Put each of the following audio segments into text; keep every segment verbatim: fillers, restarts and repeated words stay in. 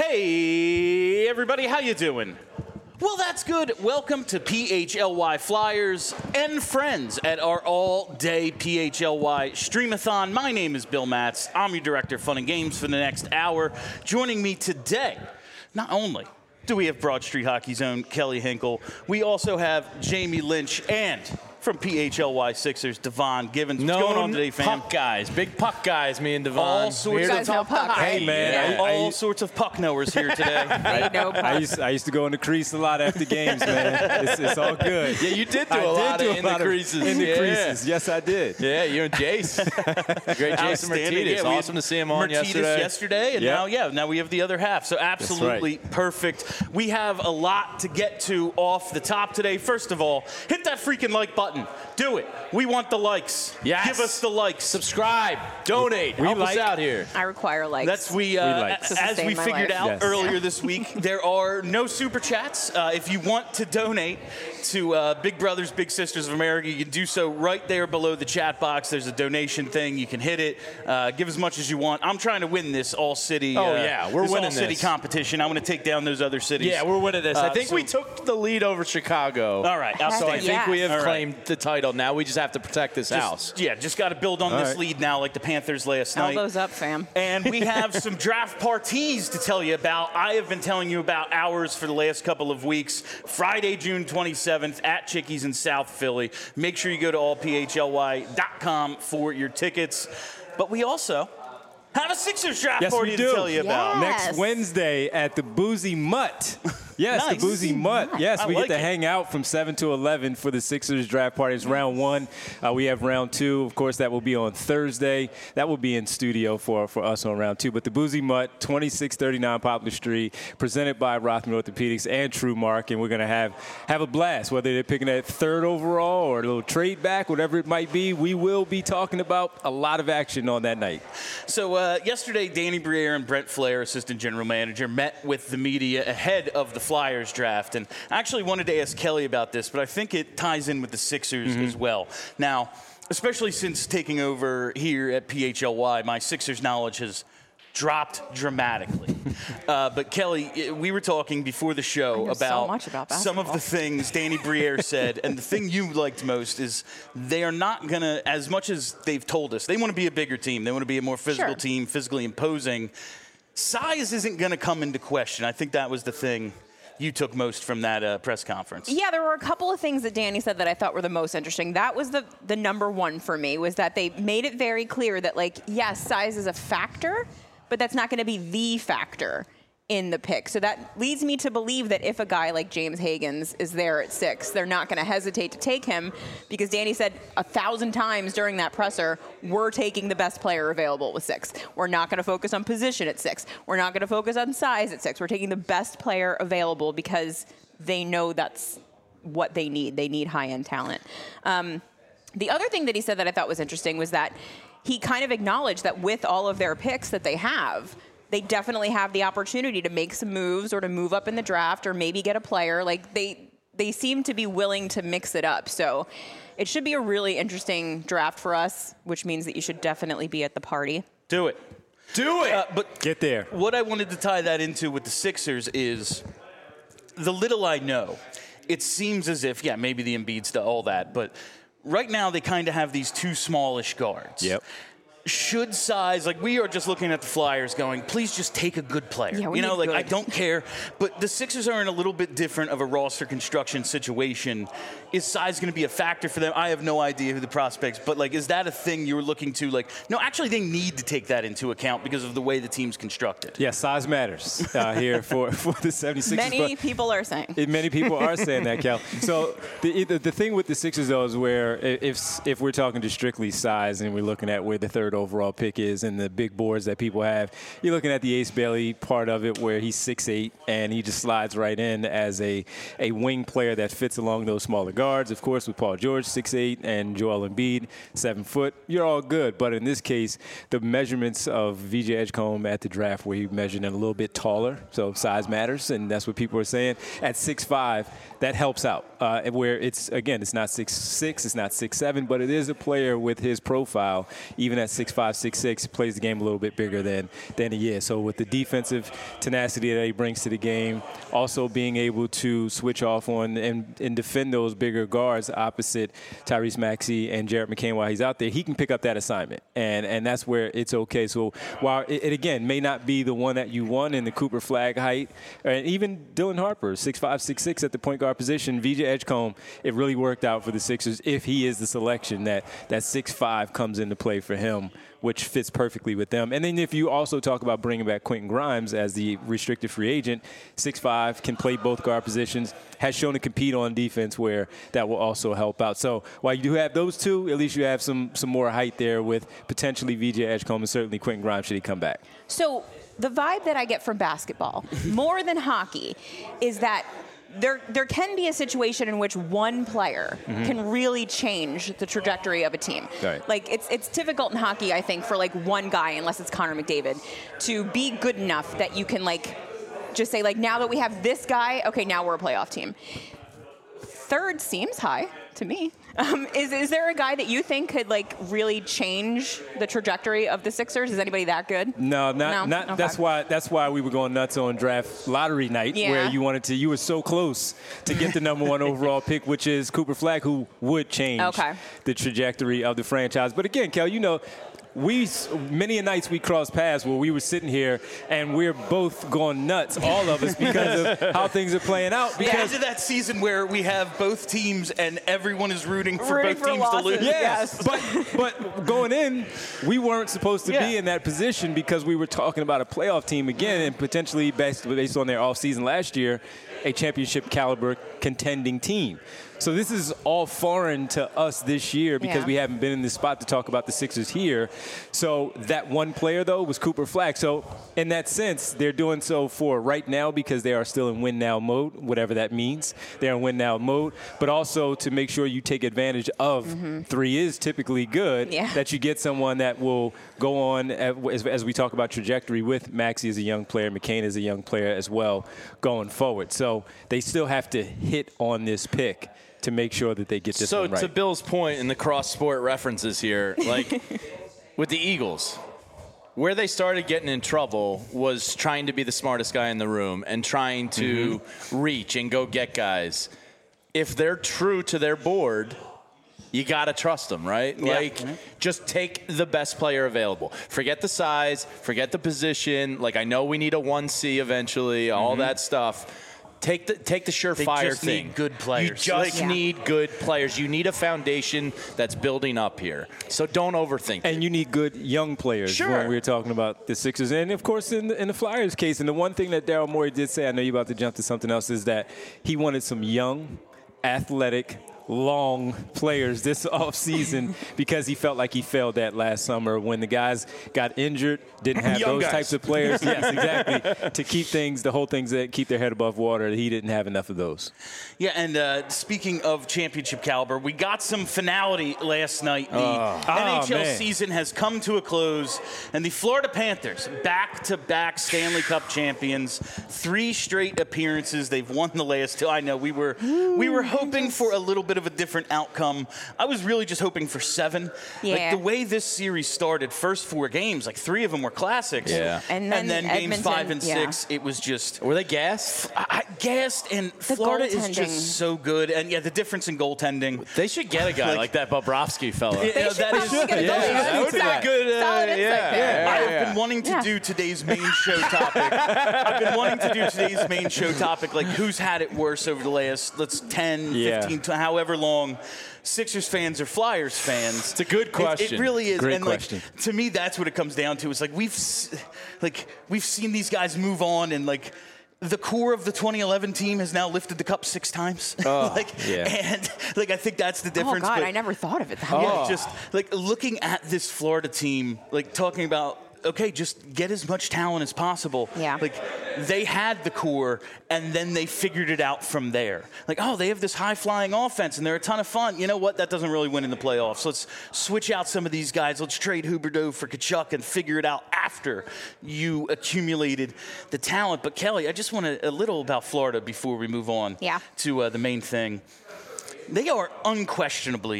Hey, everybody, how you doing? Well, that's good. Welcome to P H L Y Flyers and Friends at our all-day P H L Y Streamathon. My name is Bill Matz. I'm your Director of Fun and Games for the next hour. Joining me today, not only do we have Broad Street Hockey's own Kelly Hinkle, we also have Jamie Lynch and from P H L Y Sixers, Devon Givens. What's no going on today, fam? Puck guys, big puck guys, me and Devon. All sorts you of guys know puck, right? Hey, man. Yeah, I, all I, sorts of puck knowers here today. They know puck. I used, I used to go in the crease a lot after games, man. It's, it's all good. yeah, you did do I a lot did do of a in lot the of creases. In the yeah. creases, yes, I did. Yeah, you and Jace. Great Jason Outstanding. Martinez. Yeah, we awesome had to see him on Martinez yesterday. yesterday, and Yep. now, yeah, now we have the other half. So absolutely perfect. We have a lot to get to off the top today. First of all, hit that freaking like button. Do it. We want the likes. Yes. Give us the likes. Subscribe, donate, We help like- us out here. I require likes. That's we, uh, We like. a- To as we sustain my figured life. out Yes. earlier this week, there are no super chats. Uh, if you want to donate to uh, Big Brothers Big Sisters of America, you can do so right there below the chat box. There's a donation thing. You can hit it. Uh, give as much as you want. I'm trying to win this all city. Oh, uh, yeah, we're this winning all city this. competition. I'm going to take down those other cities. Yeah, we're winning this. Uh, I think so- we took the lead over Chicago. All right, So I outstanding. think Yeah. we have All right. claimed the title. Now we just have to protect this Just- house. Yeah, just got to build on this right. lead now, like the Panthers last night. Elbows up, fam. And we have some draft parties to tell you about. I have been telling you about ours for the last couple of weeks. Friday, June twenty-seventh at Chickies in South Philly. Make sure you go to all p h l y dot com for your tickets. But we also have a Sixers draft Yes, party we to do. tell you about. Yes. Next Wednesday at the Boozy Mutt. Yes, Nice. the Boozy Mutt. Yes, I we like get to it. hang out from seven to eleven for the Sixers draft party. It's round one. Uh, we have round two. Of course, that will be on Thursday. That will be in studio for, for us on round two. But the Boozy Mutt, twenty-six thirty-nine Poplar Street, presented by Rothman Orthopedics and TrueMark. And we're going to have, have a blast, whether they're picking that third overall or a little trade back, whatever it might be. We will be talking about a lot of action on that night. So uh, yesterday, Danny Briere and Brent Flair, assistant general manager, met with the media ahead of the Flyers draft. And I actually wanted to ask Kelly about this, but I think it ties in with the Sixers Mm-hmm. as well. Now, especially since taking over here at P H L Y, my Sixers knowledge has dropped dramatically. uh, but Kelly, we were talking before the show I know so about, much about some of the basketball. things Danny Briere said, and the thing you liked most is they are not going to, as much as they've told us, they want to be a bigger team. They want to be a more physical Sure. team, physically imposing. Size isn't going to come into question. I think that was the thing you took most from that uh, press conference. Yeah, there were a couple of things that Danny said that I thought were the most interesting. That was the the number one for me, was that they made it very clear that, like, yes, size is a factor, but that's not going to be the factor in the pick. So that leads me to believe that if a guy like James Higgins is there at six, they're not going to hesitate to take him, because Danny said a thousand times during that presser, we're taking the best player available with six. We're not going to focus on position at six. We're not going to focus on size at six. We're taking the best player available because they know that's what they need. They need high-end talent. Um, the other thing that he said that I thought was interesting was that he kind of acknowledged that with all of their picks that they have, they definitely have the opportunity to make some moves or to move up in the draft or maybe get a player. Like, they they seem to be willing to mix it up. So it should be a really interesting draft for us, which means that you should definitely be at the party. Do it. Do it. Uh, but Get there. what I wanted to tie that into with the Sixers is the little I know. It seems as if, yeah, maybe the Embiid's to all that, but right now they kind of have these two smallish guards. Yep. Should size, like, we are just looking at the Flyers going, please just take a good player. Yeah, we you know, need like, I good. don't care. But the Sixers are in a little bit different of a roster construction situation. Is size going to be a factor for them? I have no idea who the prospects, but, like, is that a thing you're looking to, like, no, actually they need to take that into account because of the way the team's constructed. Yeah, size matters uh, here for, for the seventy-sixers. Many but- people are saying. It- Many people are saying that, Cal. So the, the the thing with the Sixers, though, is where i- if if we're talking just strictly size and we're looking at where the third overall pick is and the big boards that people have, you're looking at the Ace Bailey part of it where he's six eight and he just slides right in as a, a wing player that fits along those smaller guards. Of course, with Paul George, six eight, and Joel Embiid, seven foot, you're all good. But in this case, the measurements of V J Edgecombe at the draft where he measured in a little bit taller, so size matters, and that's what people are saying. At six five, that helps out. Uh, where it's, again, it's not six six, it's not six seven, but it is a player with his profile, even at six six five, six six, plays the game a little bit bigger than, than he is. So with the defensive tenacity that he brings to the game, also being able to switch off on and, and defend those bigger guards opposite Tyrese Maxey and Jarrett McCain while he's out there, he can pick up that assignment. And and that's where it's okay. So while it, it again may not be the one that you want in the Cooper Flag height, and even Dylan Harper, six five, six six at the point guard position, V J Edgecombe, it really worked out for the Sixers if he is the selection that that six five comes into play for him, which fits perfectly with them. And then if you also talk about bringing back Quentin Grimes as the restricted free agent, six five, can play both guard positions, has shown to compete on defense where that will also help out. So while you do have those two, at least you have some some more height there with potentially V J Edgecombe and certainly Quentin Grimes should he come back. So the vibe that I get from basketball, more than hockey, is that There, there can be a situation in which one player mm-hmm. can really change the trajectory of a team. Right. Like it's it's difficult in hockey, I think, for like one guy, unless it's Connor McDavid, to be good enough that you can like just say like, now that we have this guy, okay, now we're a playoff team. Third seems high to me. Um, is is there a guy that you think could like really change the trajectory of the Sixers? Is anybody that good? No, not No? not. Okay. That's why that's why we were going nuts on draft lottery night, Yeah. where you wanted to. You were so close to get the number one overall pick, which is Cooper Flag, who would change Okay. the trajectory of the franchise. But again, Kel, you know. We many a nights we crossed paths where we were sitting here and we're both going nuts, all of us, because of how things are playing out. Because Because of that season where we have both teams and everyone is rooting for Rooting both for teams losses. to lose. Yes, but but going in, we weren't supposed to Yeah. be in that position because we were talking about a playoff team again, and potentially based, based on their offseason last year, a championship caliber contending team. So this is all foreign to us this year because Yeah. we haven't been in this spot to talk about the Sixers here. So that one player, though, was Cooper Flag. So in that sense, they're doing so for right now because they are still in win-now mode, whatever that means. They're in win-now mode, but also to make sure you take advantage of mm-hmm. three is typically good, Yeah. that you get someone that will go on, as, as we talk about trajectory with Maxey as a young player, McCain as a young player as well going forward. So they still have to hit on this pick to make sure that they get this so one right. to Bill's point in the cross-sport references here, like with the Eagles, where they started getting in trouble was trying to be the smartest guy in the room and trying to mm-hmm. reach and go get guys. If they're true to their board, you got to trust them, right? Yeah. Like, mm-hmm. just take the best player available. Forget the size, forget the position. Like, I know we need a one C eventually, all mm-hmm. that stuff. Take the take the surefire They just thing. need good players. You just Like- Yeah. need good players. You need a foundation that's building up here. So don't overthink And it. you need good young players Sure. when we were talking about the Sixers. And, of course, in the, in the Flyers case, and the one thing that Daryl Morey did say, I know you're about to jump to something else, is that he wanted some young, athletic, long players this offseason because he felt like he failed that last summer when the guys got injured, didn't have Young those guys. types of players. Yes, exactly. To keep things, the whole things that keep their head above water, he didn't have enough of those. Yeah, and uh, speaking of championship caliber, we got some finality last night. The Oh, N H L man. season has come to a close, and the Florida Panthers, back-to-back Stanley Cup champions, three straight appearances. They've won the last two. I know we were we were hoping for a little bit of a different outcome. I was really just hoping for seven. Yeah. Like the way this series started, first four games, like three of them were classics. Yeah. And then games Edmonton, five and yeah. six, it was just Were they gassed? I, I gassed, and Florida is goaltending. just so good. And yeah, the difference in goaltending. They should get a guy Like- like, that Bobrovsky fella. Yeah, They no, should that probably is- get a yeah, goalie. that would be Solid- good, uh, solid insight yeah, there. yeah, I've yeah. been wanting to Yeah. do today's main show topic. I've been wanting to do today's main show topic, like who's had it worse over the last, let's ten, Yeah. fifteen, tw- however long. Sixers fans or Flyers fans? It's a good It- question. It, really is. Great and like, question. to me, that's what it comes down to. It's like we've, s- like we've seen these guys move on, and like the core of the twenty eleven team has now lifted the cup six times. like, yeah. and like I think that's the Oh, difference. God, but- I never thought of it that yeah, way. Oh. just like looking at this Florida team, like talking about, okay, just get as much talent as possible. Yeah. Like they had the core and then they figured it out from there. Like, oh, they have this high flying offense and they're a ton of fun. You know what? That doesn't really win in the playoffs. Let's switch out some of these guys. Let's trade Huberdeau for Kachuk and figure it out after you accumulated the talent. But Kelly, I just want to, a little about Florida before we move on Yeah. to uh, the main thing. They are unquestionably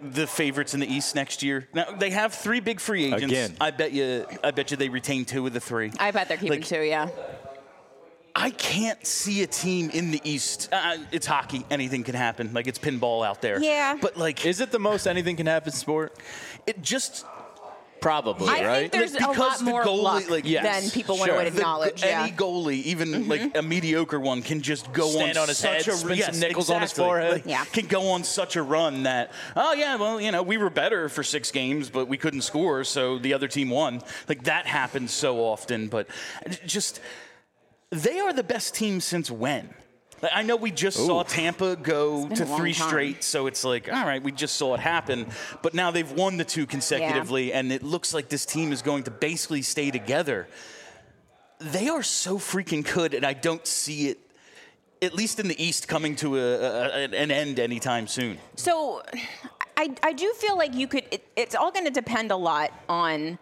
the favorites in the East next year. Now they have three big free agents. Again. I bet you. I bet you they retain two of the three. I bet they're keeping Like, two, yeah. I can't see a team in the East. Uh, it's hockey. Anything can happen. Like, it's pinball out there. Yeah. But, like, Is it the most anything can happen sport? it just Probably, I right? think there's Like, a lot because the more goalie, luck like, yes, than people sure. want to the- acknowledge. any yeah. goalie, even like a mediocre one, can just go Stand on, on his such head, a spin some yes, nickels on his exactly. forehead. Like, Yeah. can go on such a run that oh yeah, well you know we were better for six games, but we couldn't score, so the other team won. Like that happens so often, but just they are the best team since when? Like, I know we just saw Tampa go been to a long three time. straight, so it's like, all right, we just saw it happen. But now they've won the two consecutively, and it looks like this team is going to basically stay together. They are so freaking good, and I don't see it, at least in the East, coming to a, a, an end anytime soon. So I, I do feel like you could, it, it's all going to depend a lot on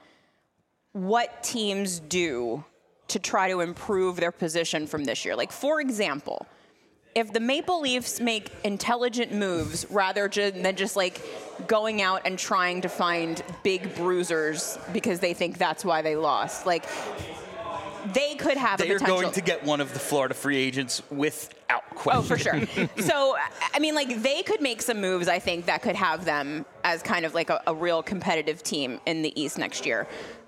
what teams do to try to improve their position from this year. Like, for example, if the Maple Leafs make intelligent moves rather ju- than just like going out and trying to find big bruisers because they think that's why they lost, like they could have They a are potential. going to get one of the Florida free agents without question. Oh, for sure. So, I mean, like, they could make some moves, I think, that could have them as kind of like a, a real competitive team in the East next year.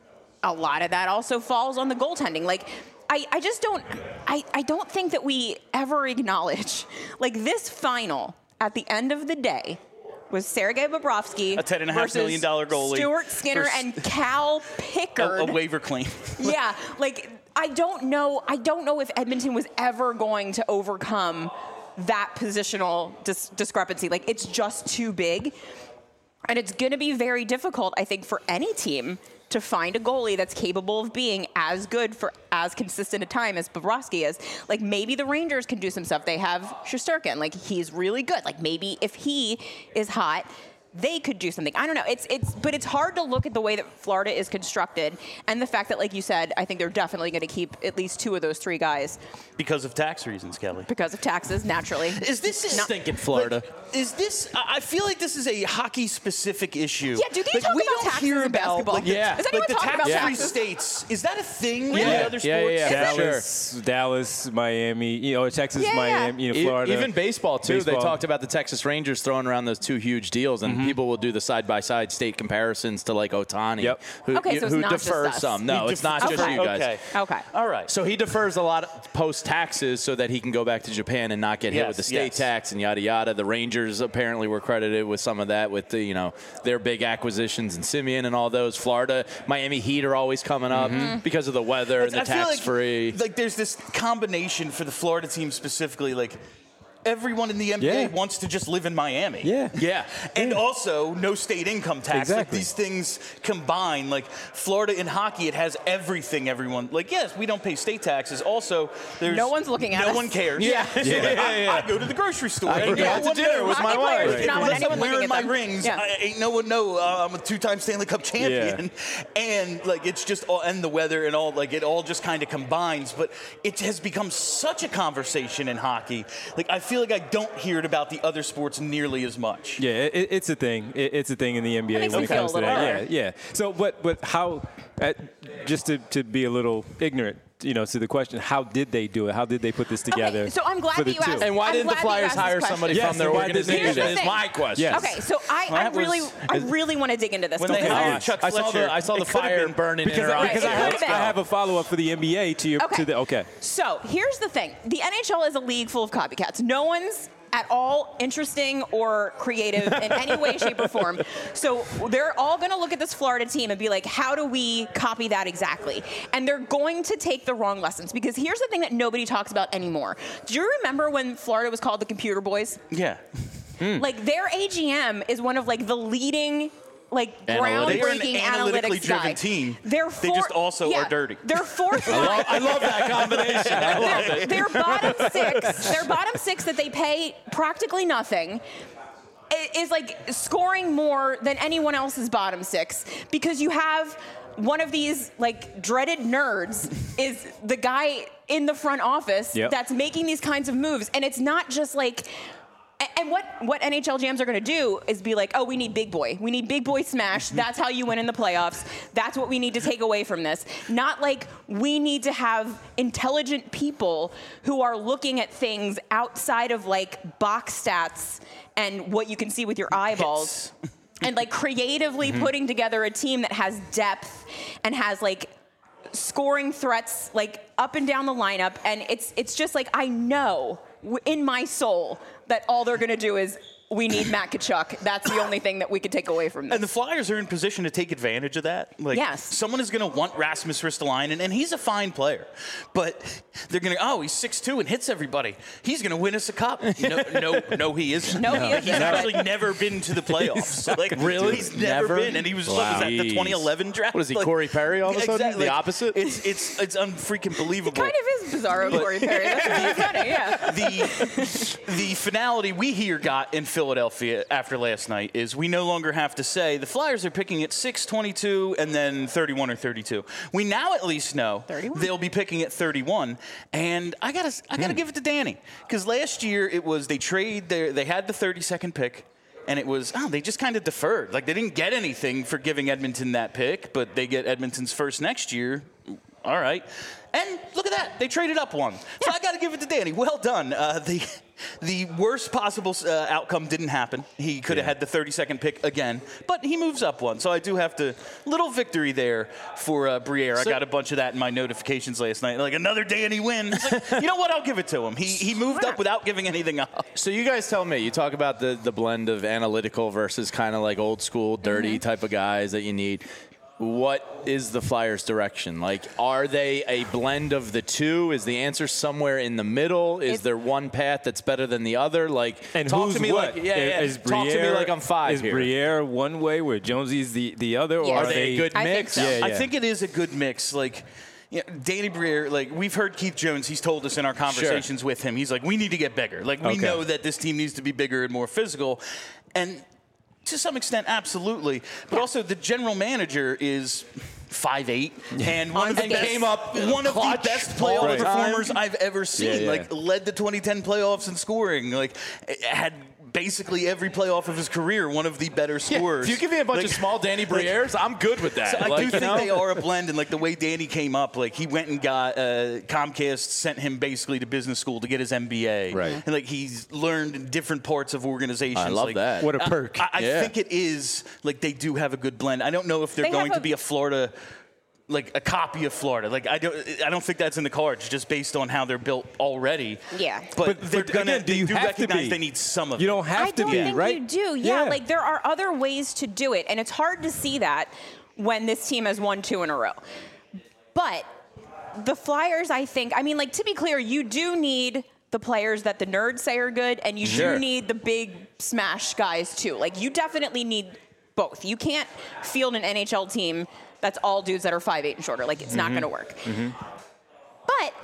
A lot of that also falls on the goaltending. Like, I, I just don't, I, I don't think that we ever acknowledge, like, this final, at the end of the day, was Sergei Bobrovsky A ten and a half versus million dollar goalie Stuart Skinner versus- and Cal Pickard. a, a waiver claim. Yeah, like I don't know. I don't know if Edmonton was ever going to overcome that positional dis- discrepancy. Like it's just too big, and it's going to be very difficult, I think, for any team to find a goalie that's capable of being as good for as consistent a time as Bobrovsky is. Like maybe the Rangers can do some stuff. They have Shesterkin. Like he's really good. Like maybe if he is hot, they could do something. I don't know. It's it's but it's hard to look at the way that Florida is constructed and the fact that, like you said, I think they're definitely going to keep at least two of those three guys Because of tax reasons, Kelly. because of taxes, naturally. Is this Not- Stinking Florida. Like, is this? I I feel like this is a hockey-specific issue. Yeah, do they like, talk we about don't taxes hear in about, basketball? Like, Yeah. Does anyone like the talk about tax-free taxes? states. Is that a thing in Yeah. the other sports? Yeah, yeah, yeah. Dallas, Dallas, Miami, you know, Texas, Yeah, yeah. Miami, you know, E- Florida. Even baseball too. Baseball. They talked about the Texas Rangers throwing around those two huge deals, and people will do the side-by-side state comparisons to like Otani, Yep. who, Okay, so it's who not just defers us. some. No, You it's def- not just Okay. you guys. Okay. Okay. All right. So he defers a lot post taxes so that he can go back to Japan and not get hit Yes, with the state yes. tax and yada yada. The Rangers apparently were credited with some of that with the you know their big acquisitions and Simeon and all those. Florida, Miami Heat are always coming up because of the weather and the I feel tax like, free. Like there's this combination for the Florida team specifically. Like everyone in the N B A Yeah. wants to just live in Miami. Yeah. Yeah. And also no state income tax. Like Exactly. these things combine. Like Florida in hockey, it has everything. Everyone like yes, we don't pay state taxes. Also, there's No one's looking at no us. one cares. Yeah. So, Yeah, like, I, yeah, yeah. I go to the grocery store. I and go no out to one dinner knows. with my Hockey players wife. do not want Unless anyone I'm looking wearing at my them. rings, Yeah. I, ain't no one know uh, I'm a two-time Stanley Cup champion, and like it's just all and the weather and all like it all just kind of combines. But it has become such a conversation in hockey. Like I feel like I don't hear it about the other sports nearly as much. Yeah, it, it's a thing. It, it's a thing in the N B A That makes when me it feel comes a to little that. better. Yeah, yeah. So, but but how? Uh, just to, to be a little ignorant, you know, to the question, how did they do it? How did they put this together? Okay, so I'm glad for that the you two? asked. And why I'm didn't the glad that you Flyers asked this hire question. somebody Yes, from their and why did they do organization? that? Is my question. Yes. Okay, so I, Well, I that really, was- I really want to dig into this. When they because hired I- Chuck I saw Fletcher, the I saw the it could've fire been- burning because in her I, eyes. because It I, could've have, been. I have a follow up for the N B A to your Okay. to the okay. So here's the thing: the N H L is a league full of copycats. No one's at all interesting or creative in any way, shape, or form. So they're all going to look at this Florida team and be like, how do we copy that exactly? And they're going to take the wrong lessons, because here's the thing that nobody talks about anymore. Do you remember when Florida was called the Computer Boys? Yeah. Like their A G M is one of like the leading like Analytics. They are an groundbreaking analytically analytics driven guy. team. They're They just four- also yeah, are dirty. They're fourth line. I love that combination. I love Their, it. their bottom six, their bottom six that they pay practically nothing, i- is like scoring more than anyone else's bottom six, because you have one of these like dreaded nerds is the guy in the front office Yep. that's making these kinds of moves, and it's not just like And what, what N H L Jams are going to do is be like, oh, we need big boy. We need big boy smash. That's how you win in the playoffs. That's what we need to take away from this. Not like we need to have intelligent people who are looking at things outside of like box stats and what you can see with your eyeballs. And like creatively mm-hmm. putting together a team that has depth and has like scoring threats like up and down the lineup. And it's it's just like, I know in my soul that all they're going to do is we need Matt Tkachuk. That's the only thing that we could take away from this. And the Flyers are in position to take advantage of that. Like, yes. Someone is going to want Rasmus Ristolainen, and he's a fine player. But they're going to, oh, he's six two and hits everybody. He's going to win us a cup. No, no, no, he isn't. No, he isn't. He's actually never been to the playoffs. Like, really? He's never, never been. And he was, wow. what was that, the twenty eleven draft? What is he, like, Corey Perry all of a sudden? Exactly. The Like, opposite? It's it's it's unfreaking believable. It kind of is bizarre, Corey Perry. That's really funny, yeah. The, the finality we here got in Philadelphia after last night is we no longer have to say the Flyers are picking at six, twenty-two, and then thirty-one or thirty-two. We now at least know thirty-one. They'll be picking at thirty-one, and I gotta I gotta mm. give it to Danny because last year it was they trade their they had the thirty-second pick. And it was, oh, they just kind of deferred. Like, they didn't get anything for giving Edmonton that pick, but they get Edmonton's first next year. All right. And look at that. They traded up one. So I got to give it to Danny. Well done. Uh, the the worst possible uh, outcome didn't happen. He could have yeah. had the thirty-second pick again, but he moves up one. So I do have to, little victory there for uh, Briere. So, I got a bunch of that in my notifications last night. Like, another Danny win. It's like, you know what? I'll give it to him. He he moved up without giving anything up. So you guys tell me. You talk about the, the blend of analytical versus kind of like old school, dirty mm-hmm. type of guys that you need. What is the Flyers' direction? Like, are they a blend of the two? Is the answer somewhere in the middle? Is it's, there one path that's better than the other? Like, and talk who's to me what? like, yeah, yeah. Is talk Briere, to me like I'm five is here. Is Briere one way where Jonesy's the, the other, yeah. or are are they, they a good I mix? Think so. yeah, yeah. I think it is a good mix. Like, yeah, Danny Briere, like, we've heard Keith Jones, he's told us in our conversations sure. with him, he's like, we need to get bigger. Like, we okay. know that this team needs to be bigger and more physical. And to some extent, absolutely. But also, the general manager is five eight, and one of the best, came up one of the best playoff right. performers I've ever seen. Yeah, yeah. Like, led the twenty ten playoffs in scoring. Like, had basically every playoff of his career one of the better scorers. Yeah, if you give me a bunch like, of small Danny Brieres, like, I'm good with that. So I like, do you think know? they are a blend, and like the way Danny came up, like he went and got uh, Comcast sent him basically to business school to get his M B A, right? And like he's learned in different parts of organizations. I love like, that. What a perk! I, I yeah. think it is like they do have a good blend. I don't know if they're They going have to a- be a Florida. Like a copy of Florida. Like I don't, I don't think that's in the cards just based on how they're built already. Yeah. but, But- they're but gonna. again, do they you do have to recognize be? they need some of You it. don't have I to don't be, think right? you do. Yeah, like there are other ways to do it, and it's hard to see that when this team has won two in a row. But the Flyers, I think, I mean, like to be clear, you do need the players that the nerds say are good, and you Sure. do need the big smash guys too. Like you definitely need both. You can't field an N H L team that's all dudes that are five eight and shorter. Like, it's mm-hmm. not going to work. Mm-hmm. But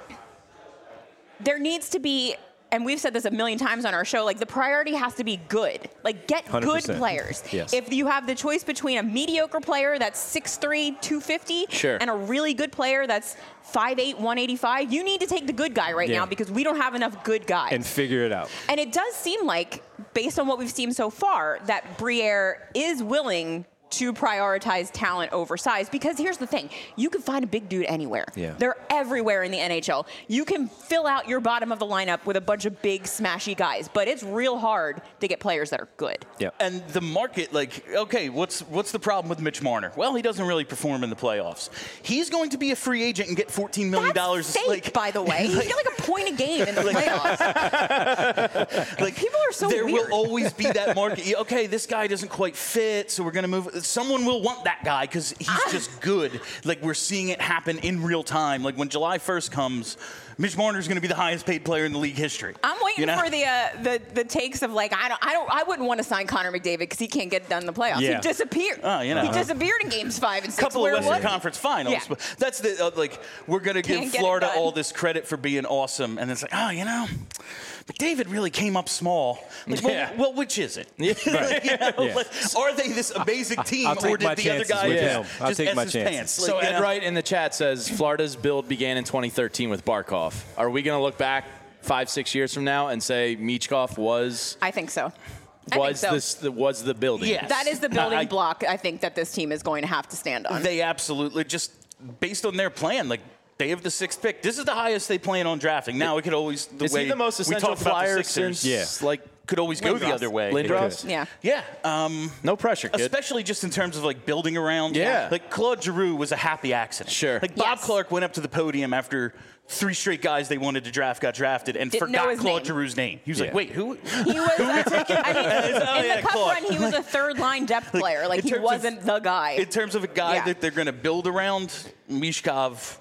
there needs to be, and we've said this a million times on our show, like, the priority has to be good. Like, get one hundred percent. good players. Yes. If you have the choice between a mediocre player that's six three, two fifty, sure. and a really good player that's five eight, one eighty-five, you need to take the good guy right yeah. now because we don't have enough good guys. And figure it out. And it does seem like, based on what we've seen so far, that Briere is willing to prioritize talent over size, because here's the thing, you can find a big dude anywhere. Yeah. They're everywhere in the N H L. You can fill out your bottom of the lineup with a bunch of big smashy guys, but it's real hard to get players that are good. Yeah. And the market, like, okay, what's what's the problem with Mitch Marner? Well, he doesn't really perform in the playoffs. He's going to be a free agent and get fourteen million dollars. That's fake, like, by the way. He's got like a point a game in the playoffs. like, people are so there weird. will always be that market. Okay, this guy doesn't quite fit, so we're going to move. Someone will want that guy because he's just good. Like, we're seeing it happen in real time. Like, when July first comes, Mitch Marner is going to be the highest paid player in the league history. I'm waiting you know? for the, uh, the the takes of like I don't I don't I wouldn't want to sign Connor McDavid because he can't get done in the playoffs. Yeah. He disappeared. Oh, you know. He disappeared in games five and six. Couple Where of Western was he? Conference Finals, Yeah. but that's the uh, like we're gonna Can't give get it Florida done. all this credit for being awesome, and it's like, oh, you know, McDavid really came up small. Like, Yeah. well, well, which is it? Yeah. Like, you know, Yeah. like, are they this amazing team, I'll take or did my the other chances guy with just, him. I'll just take ess my his chances. pants? So Like, you Ed know? Wright in the chat says Florida's build began in twenty thirteen with Barkov. Are we going to look back five, six years from now and say Michkov was I think so. I was think so. this the, was the building? Yes. That is the building I- block I think that this team is going to have to stand on. They absolutely, just based on their plan, like, they have the sixth pick. This is the highest they plan on drafting. Now, it could always, the Is way he the most we essential talked about the flyer Sixers, since Yeah. like could always go the Lindros. other way. Lindros? yeah. Yeah. Um, No pressure, kid. especially just in terms of, like, building around. Yeah. Like, Claude Giroux was a happy accident. Sure. Like, Bob Yes. Clark went up to the podium after three straight guys they wanted to draft got drafted and Didn't know forgot his Claude name. Giroux's name. He was like, Yeah. wait, who? He was, I mean, Oh, in yeah, the cup Claude. run, he was a third line depth player. Like, in he terms of- wasn't the guy. In terms of a guy Yeah. that they're going to build around, Mishkov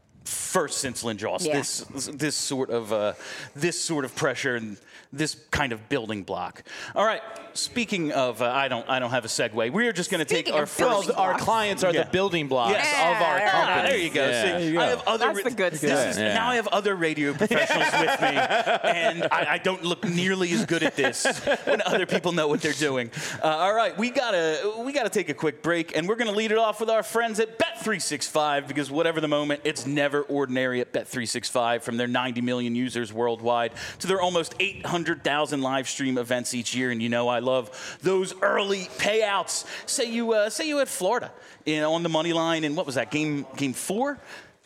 first since Lindros. Yeah. This this sort of uh, this sort of pressure and this kind of building block. All right. Speaking of, uh, I don't I don't have a segue. We are just going to take Speaking our of first. building our blocks. clients are Yeah. the building blocks Yes. of our Yeah. company. Ah, there you go. Yeah. See, There you go. I have other. That's the good this stuff. is- Yeah. Now I have other radio professionals with me, and I, I don't look nearly as good at this when other people know what they're doing. Uh, all right, we gotta we gotta take a quick break, and we're gonna lead it off with our friends at Bet three sixty-five because whatever the moment, it's never ordinary at Bet three sixty-five. From their ninety million users worldwide to their almost eight hundred thousand live stream events each year, and you know I love those early payouts. Say you uh, say you had Florida in, on the money line, and what was that game? Game four.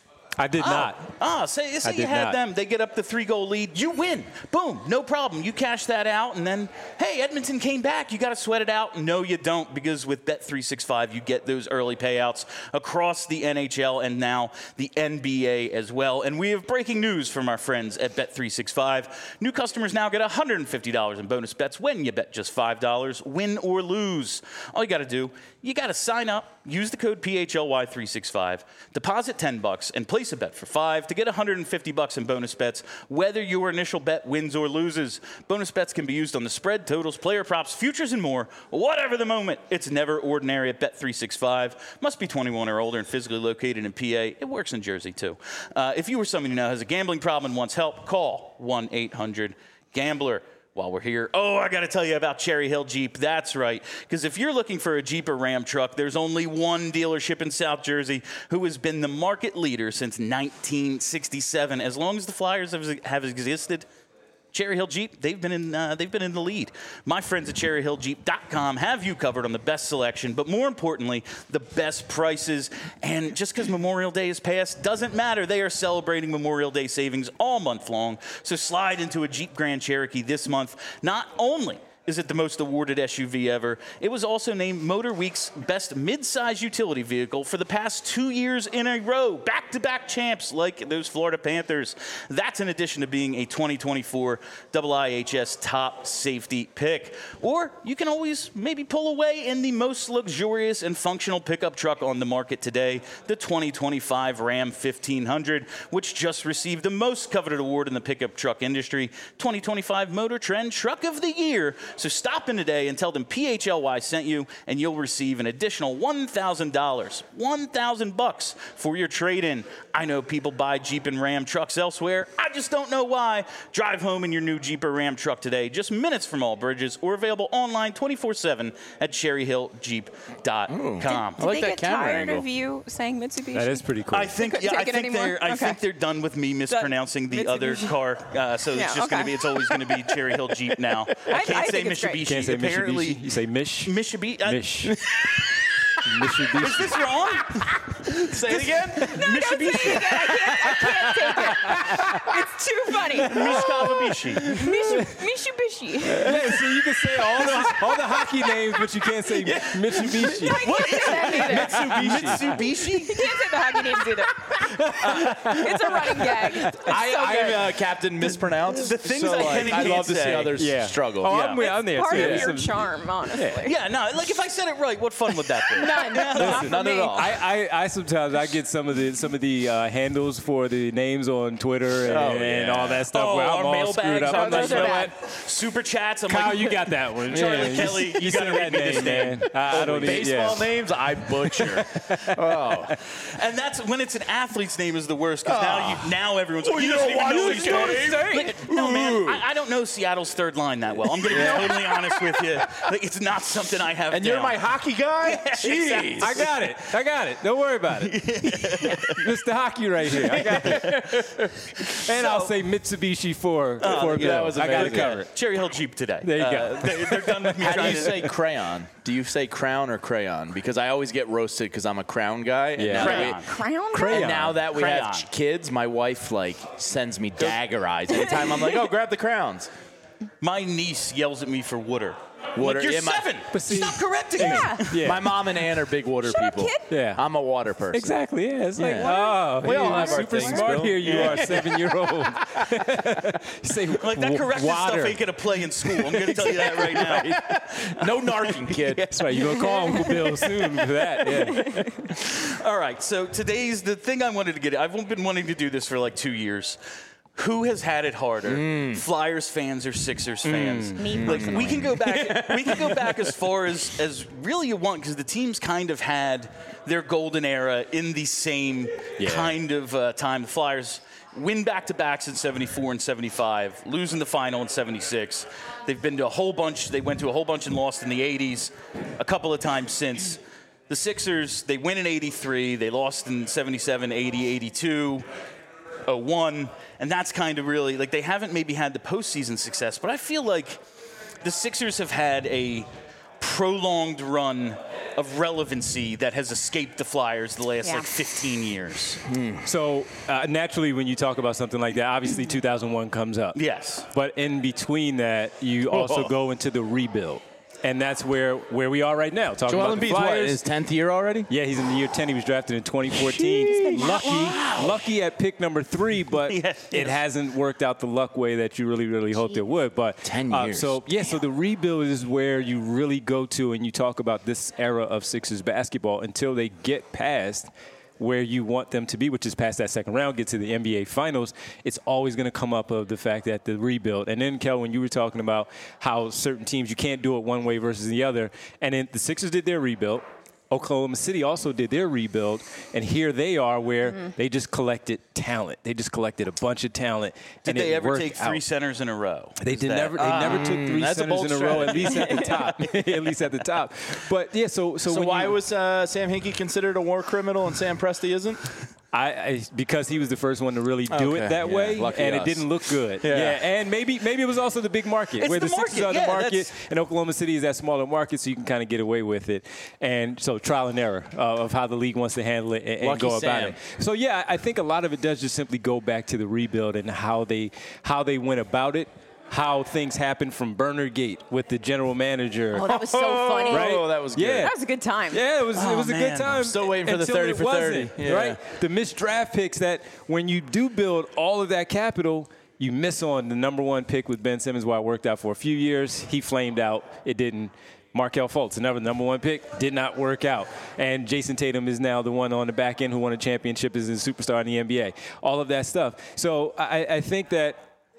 I did not. Ah, say, say I you did had not. them. They get up the three-goal lead. You win. Boom. No problem. You cash that out, and then, hey, Edmonton came back. You got to sweat it out. No, you don't, because with Bet three sixty-five, you get those early payouts across the N H L and now the N B A as well. And we have breaking news from our friends at Bet three sixty-five. New customers now get one hundred fifty dollars in bonus bets when you bet just five dollars, win or lose. All you got to do, you got to sign up, use the code P H L Y three sixty-five, deposit ten bucks, and place a bet for five to get one hundred fifty bucks in bonus bets, whether your initial bet wins or loses. Bonus bets can be used on the spread, totals, player props, futures, and more. Whatever the moment, it's never ordinary at Bet three sixty-five. Must be twenty-one or older and physically located in P A. It works in Jersey, too. Uh, if you or someone you know has a gambling problem and wants help, call one eight hundred gambler. While we're here, oh, I got to tell you about Cherry Hill Jeep. That's right. Because if you're looking for a Jeep or Ram truck, there's only one dealership in South Jersey who has been the market leader since nineteen sixty-seven. As long as the Flyers have, have existed, Cherry Hill Jeep, they've been in uh, they've been in the lead. My friends at cherry hill jeep dot com have you covered on the best selection, but more importantly, the best prices. And just because Memorial Day is past doesn't matter. They are celebrating Memorial Day savings all month long. So slide into a Jeep Grand Cherokee this month. Not only is it the most awarded S U V ever, it was also named Motor Week's best mid-size utility vehicle for the past two years in a row. Back-to-back champs like those Florida Panthers. That's in addition to being a twenty twenty-four I I H S top safety pick. Or you can always maybe pull away in the most luxurious and functional pickup truck on the market today, the twenty twenty-five Ram fifteen hundred, which just received the most coveted award in the pickup truck industry, twenty twenty-five Motor Trend Truck of the Year. So stop in today and tell them P H L Y sent you, and you'll receive an additional one thousand dollars, one thousand bucks for your trade-in. I know people buy Jeep and Ram trucks elsewhere. I just don't know why. Drive home in your new Jeep or Ram truck today, just minutes from all bridges, or available online twenty-four seven at cherry hill jeep dot com. I like Did they that get camera tired angle. of you saying Mitsubishi? That is pretty cool. I think, couldn't yeah, I take it think anymore? they're, I Okay. think they're done with me mispronouncing the other Mitsubishi. car. Uh, so Yeah, it's just going to okay. be, it's always going to be Cherry Hill Jeep now. I I- can't I say think it's great. Mitsubishi. Can't say Apparently, Mitsubishi. You say Mish. Mitsubishi. uh, Mish. Is Mitsubishi. this wrong? Say it again. Mitsubishi. I can't take it. It's too funny. Mitsubishi. Mishu- Mitsubishi. Yeah, so you can say all the all the hockey names, but you can't say Mitsubishi. What is that either? Mitsubishi. You can't say the hockey names either. It's a running gag. It's I, so good. I'm uh, Captain Mispronounced. The things so, I like, can and I'd can't love to see say. others Yeah. struggle. Oh, Yeah. I'm, I'm there Part too. of There's your some- charm, honestly. Yeah, no, like if I said it right, what fun would that be? None. Not for None me. at all. I, I, I sometimes I get some of the some of the uh, handles for the names on Twitter and, Oh, and yeah. all that stuff Oh, where I'm our all mailbags screwed up. are I'm like, those you are know bad. what? Super chats. I'm Kyle, like, you got that one. Charlie Yeah, Kelly, you, you you gotta say read that me this name, name. man. I, I don't need Baseball yeah. names, I butcher. oh. and that's when it's an athlete State's name is the worst because now you, now everyone's like, Well, you you don't know even why know you which know game. State? Like, no, man, I, I don't know Seattle's third line that well. I'm going to be totally honest with you. Like, it's not something I have And down. you're my hockey guy? Yeah, Jeez. exactly. I got it. I got it. Don't worry about it. Mister Hockey right here. I got it. And I'll say Mitsubishi for, Oh, for yeah, Bill. that was I got it amazing. covered. Cherry Hill Jeep today. There you Uh, go. they, they're done with me How do trying you to say crayon? Do you say crown or crayon? Because I always get roasted because I'm a crown guy. and Yeah. now that Crayon. we- Crown? Crayon. And now that we Crayon. have ch- kids, my wife like sends me dagger eyes anytime I'm like, "Oh, grab the crowns." My niece yells at me for water. I'm Water- Like, you're yeah, my- seven. But see- Stop correcting Yeah. me. Yeah. My mom and aunt are big water Shut up, people. kid. Yeah. I'm a water person. Exactly. Yeah. It's like, Yeah. oh, We all you're have our super things, smart Bill. here. You are, seven-year-old. Say Like, that w- corrective water. stuff ain't going to play in school. I'm going to tell you that right now. No narking, kid. That's right. You're going to call Uncle Bill soon for that. Yeah. All right, so today's the thing I wanted to get. I've been wanting to do this for like two years. Who has had it harder, Mm. Flyers fans or Sixers fans? Me Like personally. we can go back. We can go back as far as as really you want because the teams kind of had their golden era in the same Yeah. kind of uh, time. The Flyers win back-to-backs in seventy-four and seventy-five, losing the final in seventy-six. They've been to a whole bunch. They went to a whole bunch and lost in the eighties, a couple of times since. The Sixers, they win in eighty-three. They lost in seventy-seven, eighty, eighty-two. oh one, and that's kind of really like they haven't maybe had the postseason success, but I feel like the Sixers have had a prolonged run of relevancy that has escaped the Flyers the last Yeah. like fifteen years. So uh, naturally, when you talk about something like that, obviously two thousand one comes up. Yes. But in between that, you also go into the rebuild. And that's where, where we are right now. Talking Joel about the Embiid's what, Flyers. his tenth year already? Yeah, he's in the year ten. He was drafted in twenty fourteen. Lucky, lucky at pick number three, but Yes, it yes. hasn't worked out the luck way that you really, really hoped it would. But ten uh, years. so yeah, so the rebuild is where you really go to, and you talk about this era of Sixers basketball until they get past where you want them to be, which is past that second round, get to the N B A Finals. It's always going to come up of the fact that the rebuild. And then, Kel, when you were talking about how certain teams, you can't do it one way versus the other, and then the Sixers did their rebuild. Oklahoma City also did their rebuild, and here they are where Mm-hmm. they just collected talent. They just collected a bunch of talent. Did and they it ever worked take three out. centers in a row? They Is did that- never. They never took three that's a centers bold in a row, at strategy. least at the top. At least at the top. But yeah, so so, So when why you, was uh, Sam Hinkie considered a war criminal and Sam Presti isn't? I, I because he was the first one to really do Okay, it that yeah, way, lucky and us. it didn't look good. Yeah. and maybe maybe it was also the big market It's where the the, Sixers market, are the yeah, market, that's- and Oklahoma City is that smaller market, so you can kind of get away with it. And so trial and error uh, of how the league wants to handle it and, and Lucky go about Sam. it. So yeah, I think a lot of it does just simply go back to the rebuild and how they how they went about it. How things happened from Burner Gate with the general manager. Oh, that was so funny. Right? Oh, that was good. Yeah. That was a good time. Yeah, it was Oh, it was a man. good time. I'm still waiting for the until thirty it for thirty. wasn't, Yeah. Right? The missed draft picks that when you do build all of that capital, you miss on the number one pick with Ben Simmons while it worked out for a few years. He flamed out. It didn't. Markelle Fultz, another number one pick, did not work out. And Jason Tatum is now the one on the back end who won a championship as a superstar in the N B A. All of that stuff. So I, I think that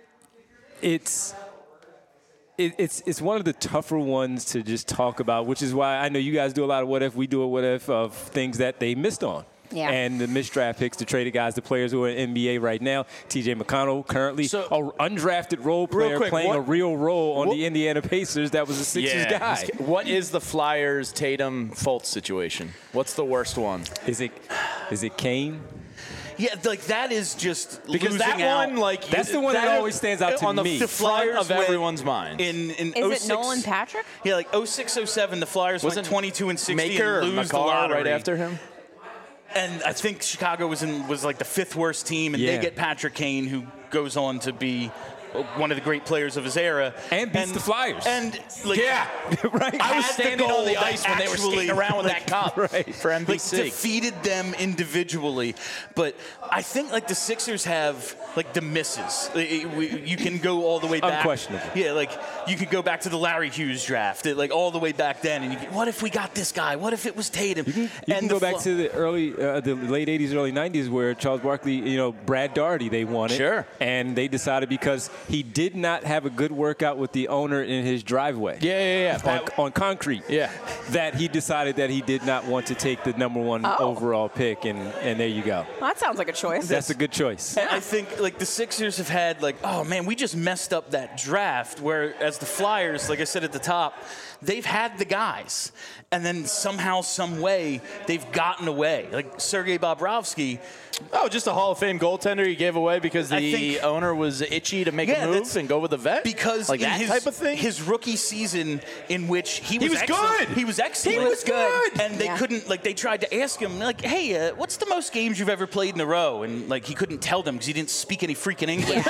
it's – It, it's it's one of the tougher ones to just talk about, which is why I know you guys do a lot of what if, we do a what if of things that they missed on. Yeah. And the missed draft picks, the traded guys, the players who are in the N B A right now. T J McConnell currently So- an undrafted role player quick, playing what- a real role on what- the Indiana Pacers that was a Sixers guy. What is the Flyers Tatum Fultz situation? What's the worst one? Is it is it Kane? Yeah, like that is just Because losing that out. one, like That's the one that always stands out to on the me. the The front Flyers of went everyone's mind. in in Is oh it six Nolan Patrick? Yeah, like oh six oh seven, the Flyers Wasn't went twenty-two and sixty Maker and or lose the McCarr lottery right after him? And I think Chicago was in was like the fifth worst team, and Yeah. they get Patrick Kane, who goes on to be one of the great players of his era, And beats the Flyers. And like, Yeah, right. I was had the standing on goal the that ice when they were actually, skating around with like, that cup right. for N B C. like defeated them individually. But I think like the Sixers have like the misses. Like, it- we- You can go all the way back. Unquestionable. Yeah, like you could go back to the Larry Hughes draft, it- like all the way back then. And you could, what if we got this guy? What if it was Tatum? You can, you and can the go back Fl- to the early, uh, the late eighties, early nineties, where Charles Barkley, you know, Brad Daugherty, they won it. Sure. And they decided because he did not have a good workout with the owner in his driveway. Yeah, yeah, yeah. On, on concrete. Yeah. That he decided that he did not want to take the number one Oh. overall pick, and, and there you go. Well, that sounds like a choice. That's a good choice. And I think like the Sixers have had like, oh man, we just messed up that draft. Whereas the Flyers, like I said at the top, they've had the guys, and then somehow, some way, they've gotten away. Like Sergei Bobrovsky. Oh, just a Hall of Fame goaltender you gave away because I the think- owner was itchy to make Yeah, a move that's- and go with a vet? Because like in that his, type of thing? his rookie season, in which he was, He was excellent. good. He was excellent. He was good. And they Yeah. couldn't, like, they tried to ask him, like, hey, uh, what's the most games you've ever played in a row? And, like, he couldn't tell them because he didn't speak any freaking English.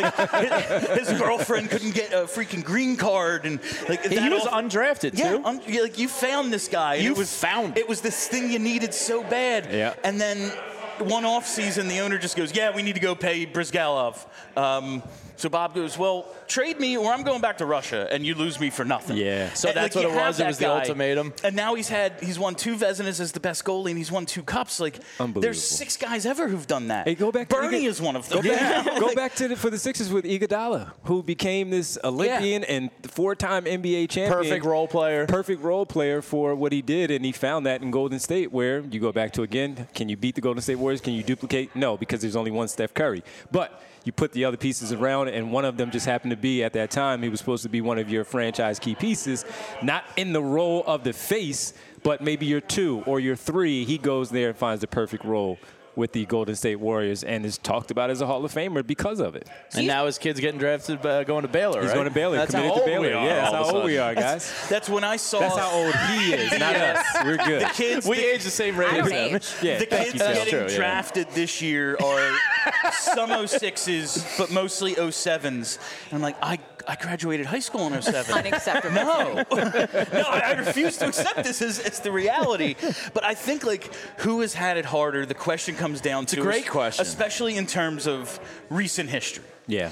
like, his, his girlfriend couldn't get a freaking green card. And, like, he that was all- undrafted, Yeah, too. un- yeah, like, you found this guy. and You it was, found It was this thing you needed so bad. Yeah. And then one off season, the owner just goes, yeah, we need to go pay Brizgalov. Um, so Bob goes, well, trade me or I'm going back to Russia and you lose me for nothing. Yeah. So And, that's like, what you it have was? It that was the guy, ultimatum? And now he's had, he's won two Vezinas as the best goalie and he's won two cups. Like, Unbelievable. there's six guys ever who've done that. Hey, go back to Bernie Iguodala. is one of them. Go back, go back to the, for the Sixers with Iguodala, who became this Olympian and four-time N B A champion. Perfect role player. Perfect role player for what he did, and he found that in Golden State, where you go back to again, can you beat the Golden State Warriors? Can you duplicate? No, because there's only one Steph Curry. But you put the other pieces around, and one of them just happened to be, at that time, he was supposed to be one of your franchise key pieces, not in the role of the face, but maybe your two or your three. He goes there and finds the perfect role with the Golden State Warriors and is talked about as a Hall of Famer because of it. And now his kid's getting drafted, uh, going to Baylor, He's right? going to Baylor, That's committed how to old Baylor. we are Yeah, that's all of how a old we sudden. are, guys. That's when I saw. That's how old he is, not Yes. us. We're good. The kids, We the, age the same rate I as don't them. age. Yeah, the thank kids you, Phil. getting true, yeah. drafted this year are some oh sixes, but mostly oh sevens. And I'm like, I, I graduated high school in oh seven. Unacceptable. No, no, I, I refuse to accept this as it's the reality. But I think like who has had it harder? The question comes down to a great question. especially in terms of recent history. Yeah.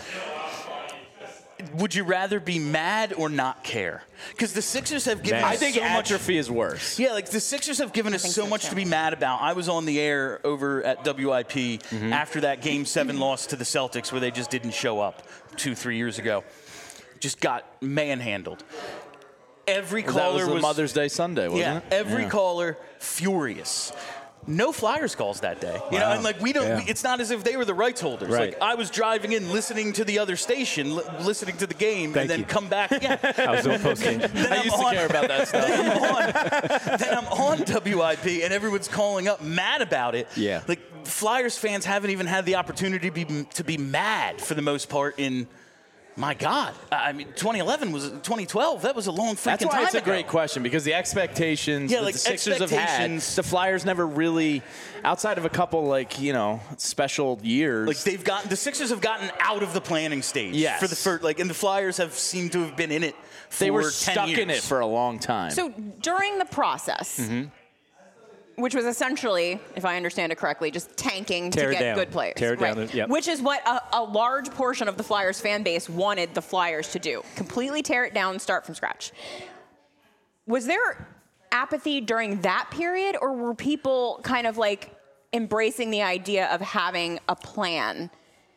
Would you rather be mad or not care? Because the Sixers have given Mad. us I think so much. atrophy is worse. Yeah, like the Sixers have given us think so so, much too. to be mad about. I was on the air over at W I P Mm-hmm. after that Game Seven loss to the Celtics, where they just didn't show up two, three years ago. Just got manhandled. Every That caller was the was Mother's Day Sunday, wasn't yeah, it? every Yeah. caller furious. No Flyers calls that day. You know, Wow. and like we don't. Yeah. we- it's not as if they were the rights holders. Right. Like I was driving in, listening to the other station, li- listening to the game, Thank and then you. come back. Yeah. I was doing post game. Then I I'm used to on- care about that stuff. then I'm on, then I'm on W I P, and everyone's calling up mad about it. Yeah. Like Flyers fans haven't even had the opportunity to be to be mad for the most part in. My God, I mean, twenty eleven was twenty twelve. That was a long freaking That's why time it's a ago. great question, because the expectations Yeah, that like the Sixers have had, expectations- the Flyers never really, outside of a couple, like, you know, special years. Like they've gotten the Sixers have gotten out of the planning stage. Yes. For the first, like, and the Flyers have seemed to have been in it. For they were ten stuck years. in it for a long time. So during the process, which was essentially, if I understand it correctly, just tanking Tear to it get down. good players. Tear it right. down and- yep. Which is what a, a large portion of the Flyers fan base wanted the Flyers to do. Completely tear it down, start from scratch. Was there apathy during that period, or were people kind of like embracing the idea of having a plan